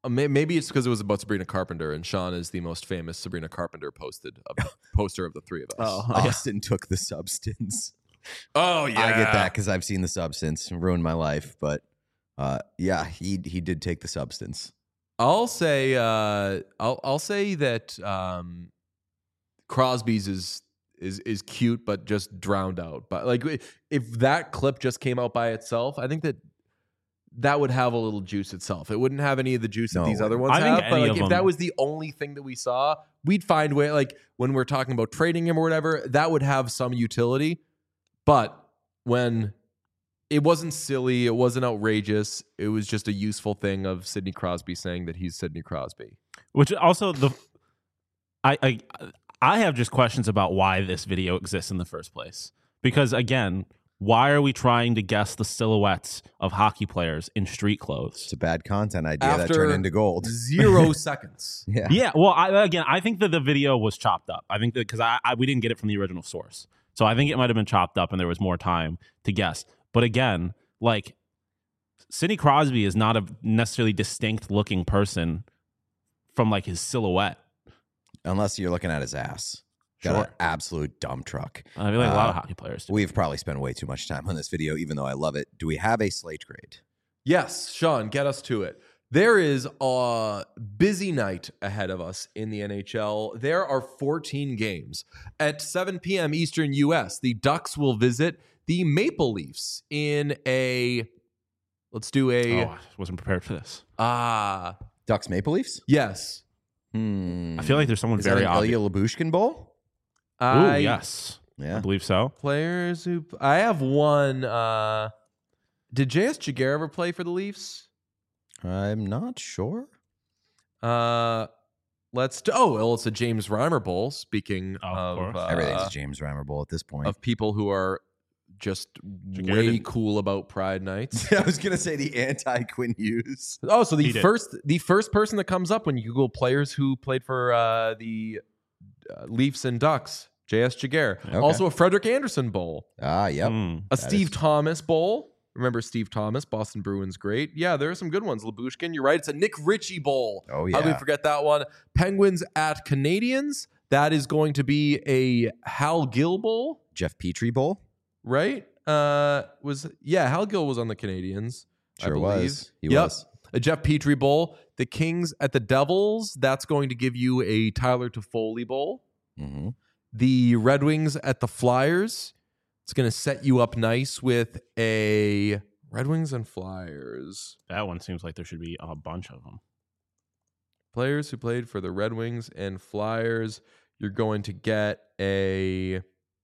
Uh, may- maybe it's because it was about Sabrina Carpenter, and Sean is the most famous Sabrina Carpenter posted of the poster of the three of us. Oh, Austin took the substance. Oh yeah, I get that because I've seen the substance and ruined my life. But uh, yeah, he he did take the substance. I'll say uh, I'll I'll say that um, Crosby's is is is cute, but just drowned out. But like, if that clip just came out by itself, I think that that would have a little juice itself. It wouldn't have any of the juice that No. these other ones I think have. But any like, of if them- that was the only thing that we saw, we'd find way. Like when we're talking about trading him or whatever, that would have some utility. But when it wasn't silly, it wasn't outrageous, it was just a useful thing of Sidney Crosby saying that he's Sidney Crosby. Which also the I I I have just questions about why this video exists in the first place. Because again, why are we trying to guess the silhouettes of hockey players in street clothes? It's a bad content idea that After turned into gold. Zero seconds. Yeah. Yeah, well, I, again, I think that the video was chopped up. I think that because I, I we didn't get it from the original source, so I think it might have been chopped up, and there was more time to guess. But again, like Sidney Crosby is not a necessarily distinct looking person from like his silhouette, Unless you're looking at his ass. Got Sure. an absolute dump truck. I feel like a lot of Uh, hockey players do. We've probably spent way too much time on this video, even though I love it. Do we have a slate grade? Yes, Sean, get us to it. There is a busy night ahead of us in the N H L. There are fourteen games. At seven p.m. Eastern U S, the Ducks will visit the Maple Leafs in a, let's do a, Oh, I wasn't prepared for this. ah, Ducks Maple Leafs? yes. Hmm. I feel like there's someone Is very that an obvious. Ilya Labushkin Bowl? Ooh, I, yes, I Yeah. believe so. Players who, I have one, uh, did J S Jaguar ever play for the Leafs? I'm not sure. Uh, let's do, oh, well, it's a James Reimer Bowl. Speaking Oh, of of, course. uh, Everything's a James Reimer Bowl at this point. of people who are just Jaguar way didn't- cool about Pride Nights. I was gonna say the anti-Quinn Hughes. Oh, so the He did. first the first person that comes up when you Google players who played for uh, the uh, Leafs and Ducks, J S Jaguar. Okay. Also a Frederick Anderson Bowl, Ah, yep. Hmm. a That Steve is- Thomas Bowl. Remember Steve Thomas, Boston Bruins, great. Yeah, there are some good ones. Labushkin, you're right. It's a Nick Ritchie Bowl. Oh, How do we yeah. forget that one? Penguins at Canadians. That is going to be a Hal Gill Bowl, Jeff Petrie Bowl. right? Uh, was yeah, Hal Gill was on the Canadians. I Sure believe. was. He Yep. was. A Jeff Petrie Bowl. The Kings at the Devils. That's going to give you a Tyler Toffoli Bowl. Mm-hmm. The Red Wings at the Flyers. It's going to set you up nice with a Red Wings and Flyers. That one seems like there should be a bunch of them. Players who played for the Red Wings and Flyers. You're going to get a.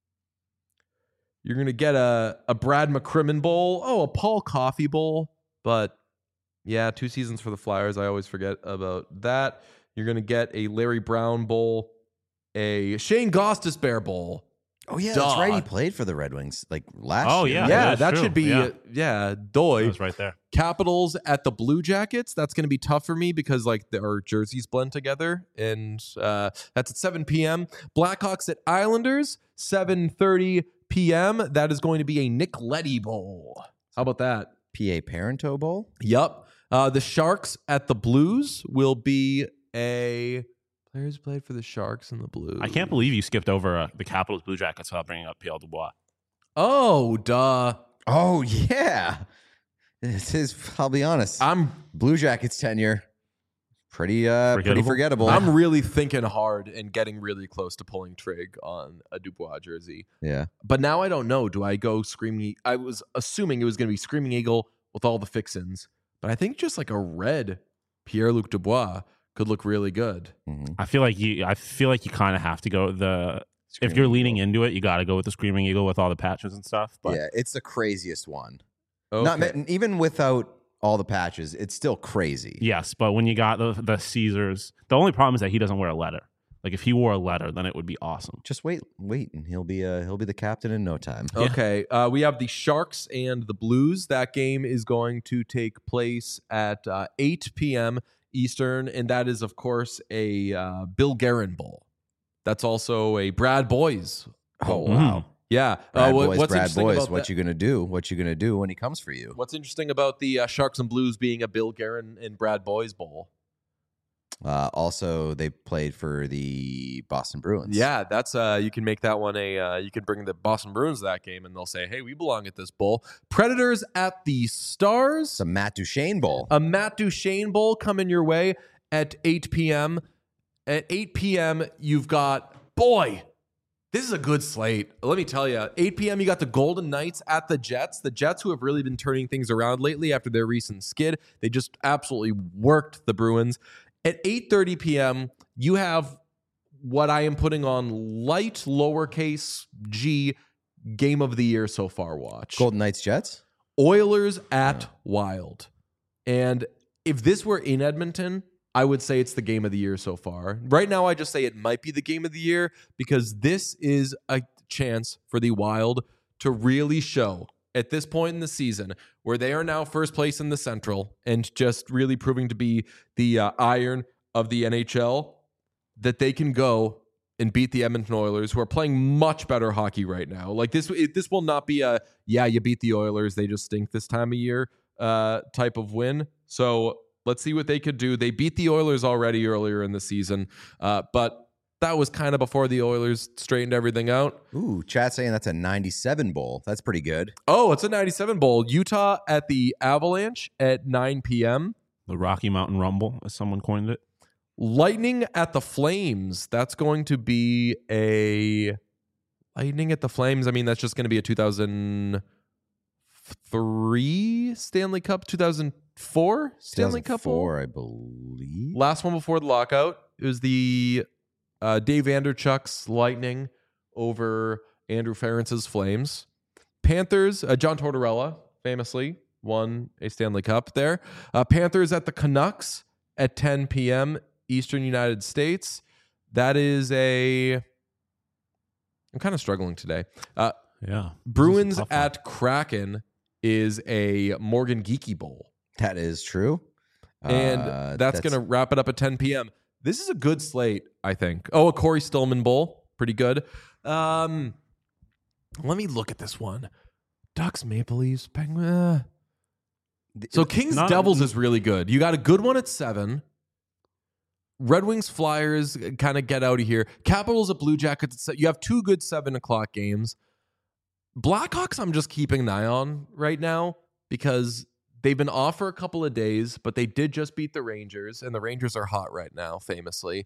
You're going to get a, a Brad McCrimmon Bowl. Oh, a Paul Coffey Bowl. But yeah, two seasons for the Flyers. I always forget about that. You're going to get a Larry Brown Bowl, a Shane Gostisbehere Bowl. Oh yeah, Duh. that's right. He played for the Red Wings like last Oh, year. yeah. Yeah, that is that true. should be, Yeah. uh, yeah, doy. That was right there. Capitals at the Blue Jackets. That's going to be tough for me because like our jerseys blend together, and uh, that's at seven p.m. Blackhawks at Islanders, seven thirty p.m. That is going to be a Nick Leddy Bowl. How about that? P A Parento Bowl. Yep. Uh, the Sharks at the Blues will be a players played for the Sharks and the Blues. I can't believe you skipped over uh, the Capitals Blue Jackets without bringing up Pierre Dubois. Oh, duh. Oh yeah. This is. I'll be honest. I'm Blue Jackets tenure. Pretty uh pretty Forgettable? forgettable. I'm really thinking hard and getting really close to pulling trig on a Dubois jersey. yeah. But now I don't know. Do I go Screaming? I was assuming it was going to be Screaming Eagle with all the fixins, but I think just like a red Pierre-Luc Dubois could look really good. Mm-hmm. I feel like you. I feel like you kind of have to go the. Screaming if you're Eagle. leaning into it, you got to go with the Screaming Eagle with all the patches and stuff. But Yeah, it's the craziest one. Okay. Not ma- even without all the patches, it's still crazy. yes, but when you got the the Caesars, the only problem is that he doesn't wear a letter. Like if he wore a letter, then it would be awesome. Just wait, wait, and he'll be uh he'll be the captain in no time. Okay. Uh, we have the Sharks and the Blues. That game is going to take place at uh, eight p.m. Eastern, and that is, of course, a uh, Bill Guerin Bowl. That's also a Brad Boys Bowl. Oh, wow. Yeah. Brad uh, what- boys, what's Brad interesting boys, about what that- you gonna do? What you gonna do when he comes for you? What's interesting about the uh, Sharks and Blues being a Bill Guerin and Brad Boys Bowl? Uh, also, they played for the Boston Bruins. Yeah, that's uh, you can make that one a. Uh, you can bring the Boston Bruins to that game, and they'll say, "Hey, we belong at this bowl." Predators at the Stars. It's a Matt Duchene Bowl. A Matt Duchene Bowl coming your way at eight p.m. At eight p.m., you've got boy. This is a good slate. Let me tell you. eight p.m., you got the Golden Knights at the Jets. The Jets, who have really been turning things around lately after their recent skid, they just absolutely worked the Bruins. At eight thirty p.m., you have what I am putting on light lowercase g game of the year so far watch. Golden Knights Jets? Oilers at Wild. And if this were in Edmonton, I would say it's the game of the year so far. Right now, I just say it might be the game of the year because this is a chance for the Wild to really show at this point in the season where they are now first place in the Central and just really proving to be the uh, iron of the N H L, that they can go and beat the Edmonton Oilers, who are playing much better hockey right now. Like this, it, this will not be a, yeah, you beat the Oilers, they just stink this time of year uh, type of win. So let's see what they could do. They beat the Oilers already earlier in the season, uh, but that was kind of before the Oilers straightened everything out. Ooh, chat saying that's a ninety-seven bowl. That's pretty good. Oh, it's a ninety-seven bowl. Utah at the Avalanche at nine p.m. The Rocky Mountain Rumble, as someone coined it. Lightning at the Flames. That's going to be a Lightning at the Flames. I mean, that's just going to be a two thousand three Stanley Cup, two thousand four Stanley Cup bowl. I believe. Last one before the lockout. It was the Uh, Dave Vanderchuk's Lightning over Andrew Ferentz's Flames. Panthers, uh, John Tortorella famously won a Stanley Cup there. Uh, Panthers at the Canucks at ten p.m. Eastern United States. That is a... I'm kind of struggling today. Uh, yeah. Bruins at Kraken is a Morgan Geekie Bowl. That is true. And Uh, that's, going to wrap it up at ten p.m. This is a good slate, I think. Oh, a Corey Stillman Bowl. Pretty good. Um, let me look at this one. Ducks, Maple Leafs, Penguins. Uh. So Kings Not- Devils is really good. You got a good one at seven. Red Wings Flyers kind of get out of here. Capitals at Blue Jackets. At se- you have two good seven o'clock games. Blackhawks, I'm just keeping an eye on right now because they've been off for a couple of days, but they did just beat the Rangers, and the Rangers are hot right now, famously.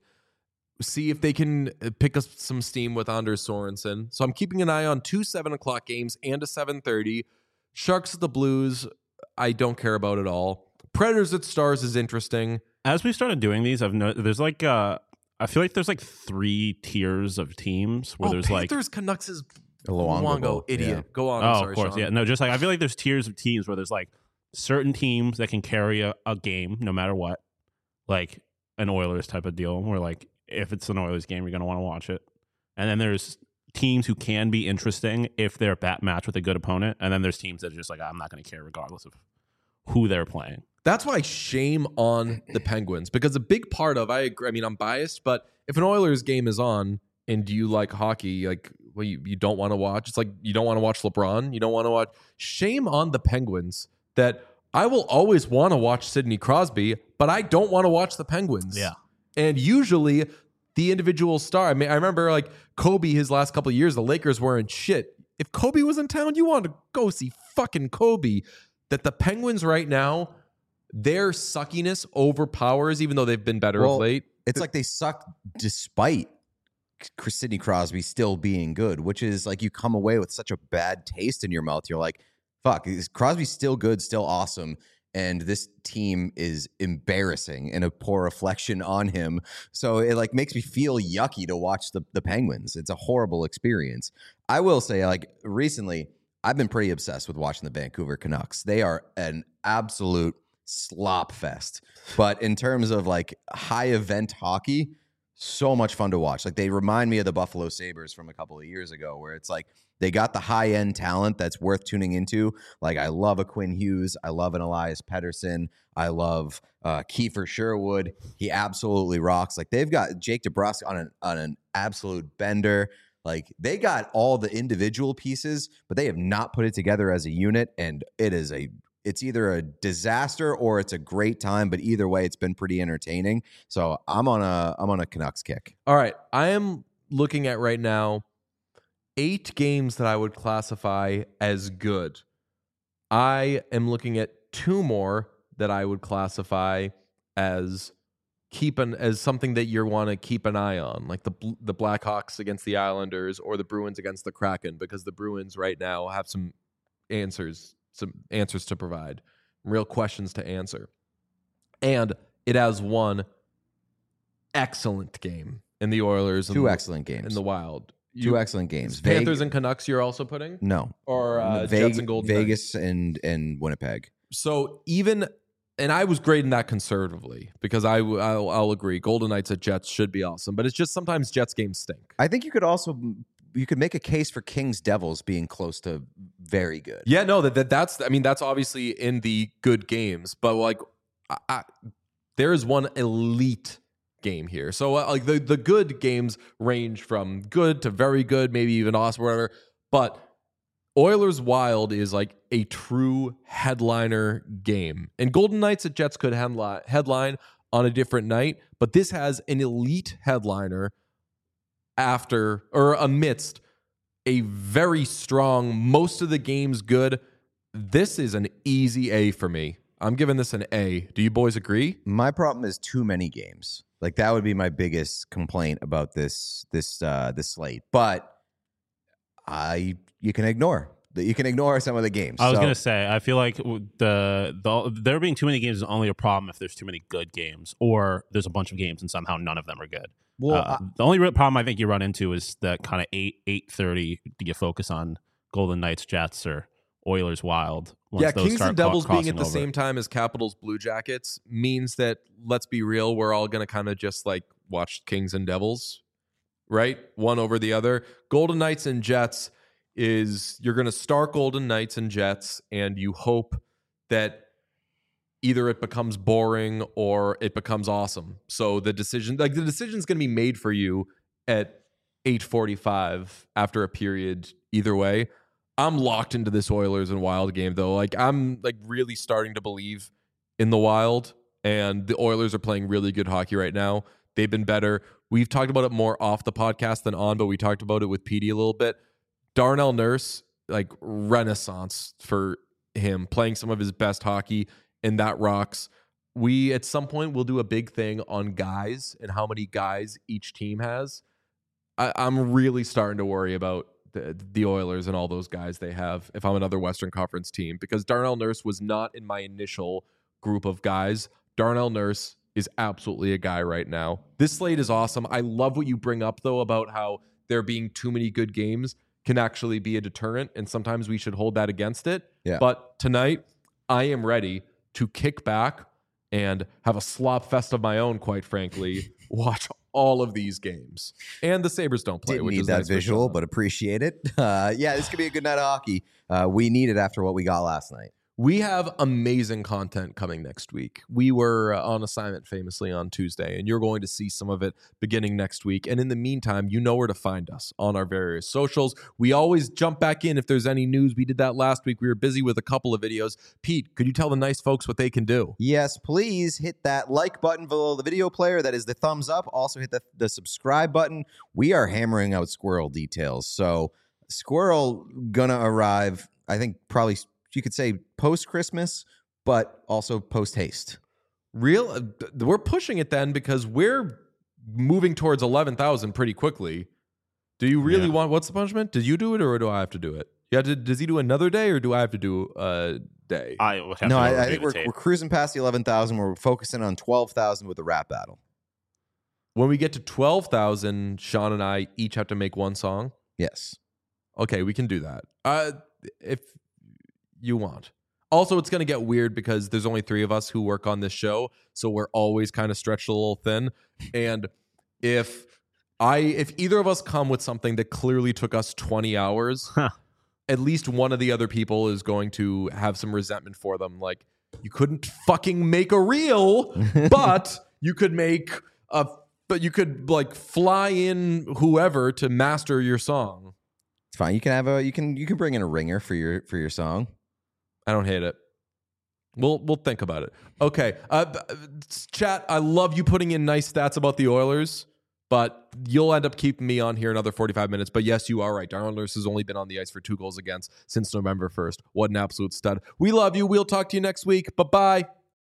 See if they can pick up some steam with Anders Sorensen. So I'm keeping an eye on two seven o'clock games and a seven thirty. Sharks at the Blues, I don't care about at all. Predators at Stars is interesting. As we started doing these, I've noticed there's like uh, I feel like there's like three tiers of teams where oh, there's like Panthers, Canucks is Luongo Luongo, Bowl, idiot. yeah. Go on. Oh, I'm sorry, of course, Sean. yeah. No, just like I feel like there's tiers of teams where there's like certain teams that can carry a, a game no matter what, like an Oilers type of deal, where like if it's an Oilers game, you're gonna want to watch it. And then there's teams who can be interesting if they're a bat match with a good opponent, and then there's teams that are just like I'm not gonna care regardless of who they're playing. That's why shame on the Penguins, because a big part of I agree. I mean, I'm biased, but if an Oilers game is on and you like hockey, like well, you, you don't want to watch. It's like you don't want to watch LeBron. You don't want to watch. Shame on the Penguins that I will always want to watch Sidney Crosby, but I don't want to watch the Penguins. Yeah. And usually the individual star. I mean, I remember like Kobe his last couple of years, the Lakers weren't shit. If Kobe was in town, you wanted to go see fucking Kobe. That the Penguins right now, their suckiness overpowers, even though they've been better Well, of late. It's like they suck despite Sidney Crosby still being good, which is like you come away with such a bad taste in your mouth. You're like, fuck, is Crosby still good, still awesome? And this team is embarrassing and a poor reflection on him. So it like makes me feel yucky to watch the, the Penguins. It's a horrible experience. I will say, like recently, I've been pretty obsessed with watching the Vancouver Canucks. They are an absolute slop fest. But in terms of like high event hockey, so much fun to watch. Like they remind me of the Buffalo Sabres from a couple of years ago, where it's like they got the high end talent that's worth tuning into. Like I love a Quinn Hughes. I love an Elias Pettersson. I love uh, Kiefer Sherwood. He absolutely rocks. Like they've got Jake DeBrusk on an, on an absolute bender. Like they got all the individual pieces, but they have not put it together as a unit. And it is a it's either a disaster or it's a great time, but either way, it's been pretty entertaining. So I'm on a I'm on a Canucks kick. All right, I am looking at right now eight games that I would classify as good. I am looking at two more that I would classify as keep an as something that you want to keep an eye on, like the the Blackhawks against the Islanders or the Bruins against the Kraken, because the Bruins right now have some answers, some answers to provide, real questions to answer, and it has one excellent game in the Oilers, two and excellent games in the Wild. Two You, excellent games. Panthers Veg- and Canucks. You're also putting no, or uh, Veg- Jets and Golden Vegas Knights. and and Winnipeg. So even, and I was grading that conservatively because I I'll, I'll agree, Golden Knights at Jets should be awesome, but it's just sometimes Jets games stink. I think you could also you could make a case for Kings Devils being close to very good. Yeah, no, that, that that's I mean that's obviously in the good games, but like I, I, there is one elite game here. So uh, like the the good games range from good to very good, maybe even awesome, whatever. But Oilers Wild is like a true headliner game, and Golden Knights at Jets could headline headline on a different night, but this has an elite headliner after or amidst a very strong, most of the games good. This is an easy A for me. I'm giving this an A. Do you boys agree? My problem is too many games. Like that would be my biggest complaint about this this uh, this slate. But I you can ignore you can ignore some of the games. I was So- gonna say I feel like the, the there being too many games is only a problem if there's too many good games, or there's a bunch of games and somehow none of them are good. Well, uh, the only real problem I think you run into is that kind of eight eight thirty. Do you focus on Golden Knights, Jets, or Oilers, Wild? once Yeah, those Kings start and cro- Devils being crossing at the over. same time as Capitals, Blue Jackets means that, let's be real, we're all going to kind of just like watch Kings and Devils, right? One over the other. Golden Knights and Jets is you're going to start Golden Knights and Jets, and you hope that either it becomes boring or it becomes awesome. So the decision, like the decision is going to be made for you at eight forty-five after a period either way. I'm locked into this Oilers and Wild game though. Like I'm like really starting to believe in the Wild, and the Oilers are playing really good hockey right now. They've been better. We've talked about it more off the podcast than on, but we talked about it with Petey a little bit. Darnell Nurse, like renaissance for him, playing some of his best hockey, and that rocks. We at some point will do a big thing on guys and how many guys each team has. I, I'm really starting to worry about the, the Oilers and all those guys they have if I'm another Western Conference team, because Darnell Nurse was not in my initial group of guys. Darnell Nurse is absolutely a guy right now. This slate is awesome. I love what you bring up, though, about how there being too many good games can actually be a deterrent, and sometimes we should hold that against it. Yeah. But tonight, I am ready to kick back and have a slop fest of my own, quite frankly, watch all of these games. And the Sabres don't play, Didn't which need is that nice for visual, Sean. but appreciate it. Uh, yeah, this could be a good night of hockey. Uh, we need it after what we got last night. We have amazing content coming next week. We were uh, on assignment famously on Tuesday, and you're going to see some of it beginning next week. And in the meantime, you know where to find us on our various socials. We always jump back in if there's any news. We did that last week. We were busy with a couple of videos. Pete, could you tell the nice folks what they can do? Yes, please hit that like button below the video player. That is the thumbs up. Also hit the, the subscribe button. We are hammering out Squirrel details. So Squirrel gonna arrive, I think probably you could say post-Christmas, but also post-haste. Real, uh, we're pushing it then because we're moving towards eleven thousand pretty quickly. Do you really Yeah. want, what's the punishment? Did you do it or do I have to do it? Yeah, did, does he do another day or do I have to do a day? I would have No, to I, I review think the we're, tape. we're cruising past the eleven thousand. We're focusing on twelve thousand with the rap battle. When we get to twelve thousand, Sean and I each have to make one song. Yes. Okay, we can do that. Uh, if you want. Also, it's going to get weird because there's only three of us who work on this show, so we're always kind of stretched a little thin. And if I, if either of us come with something that clearly took us twenty hours, at least one of the other people is going to have some resentment for them. Like, you couldn't fucking make a reel, but you could make a, but you could like fly in whoever to master your song. It's fine. You can have a you can you can bring in a ringer for your for your song. I don't hate it. We'll we'll think about it. Okay, uh, chat. I love you putting in nice stats about the Oilers, but you'll end up keeping me on here another forty-five minutes. But yes, you are right. Darnell Nurse has only been on the ice for two goals against since November first. What an absolute stud. We love you. We'll talk to you next week. Bye bye.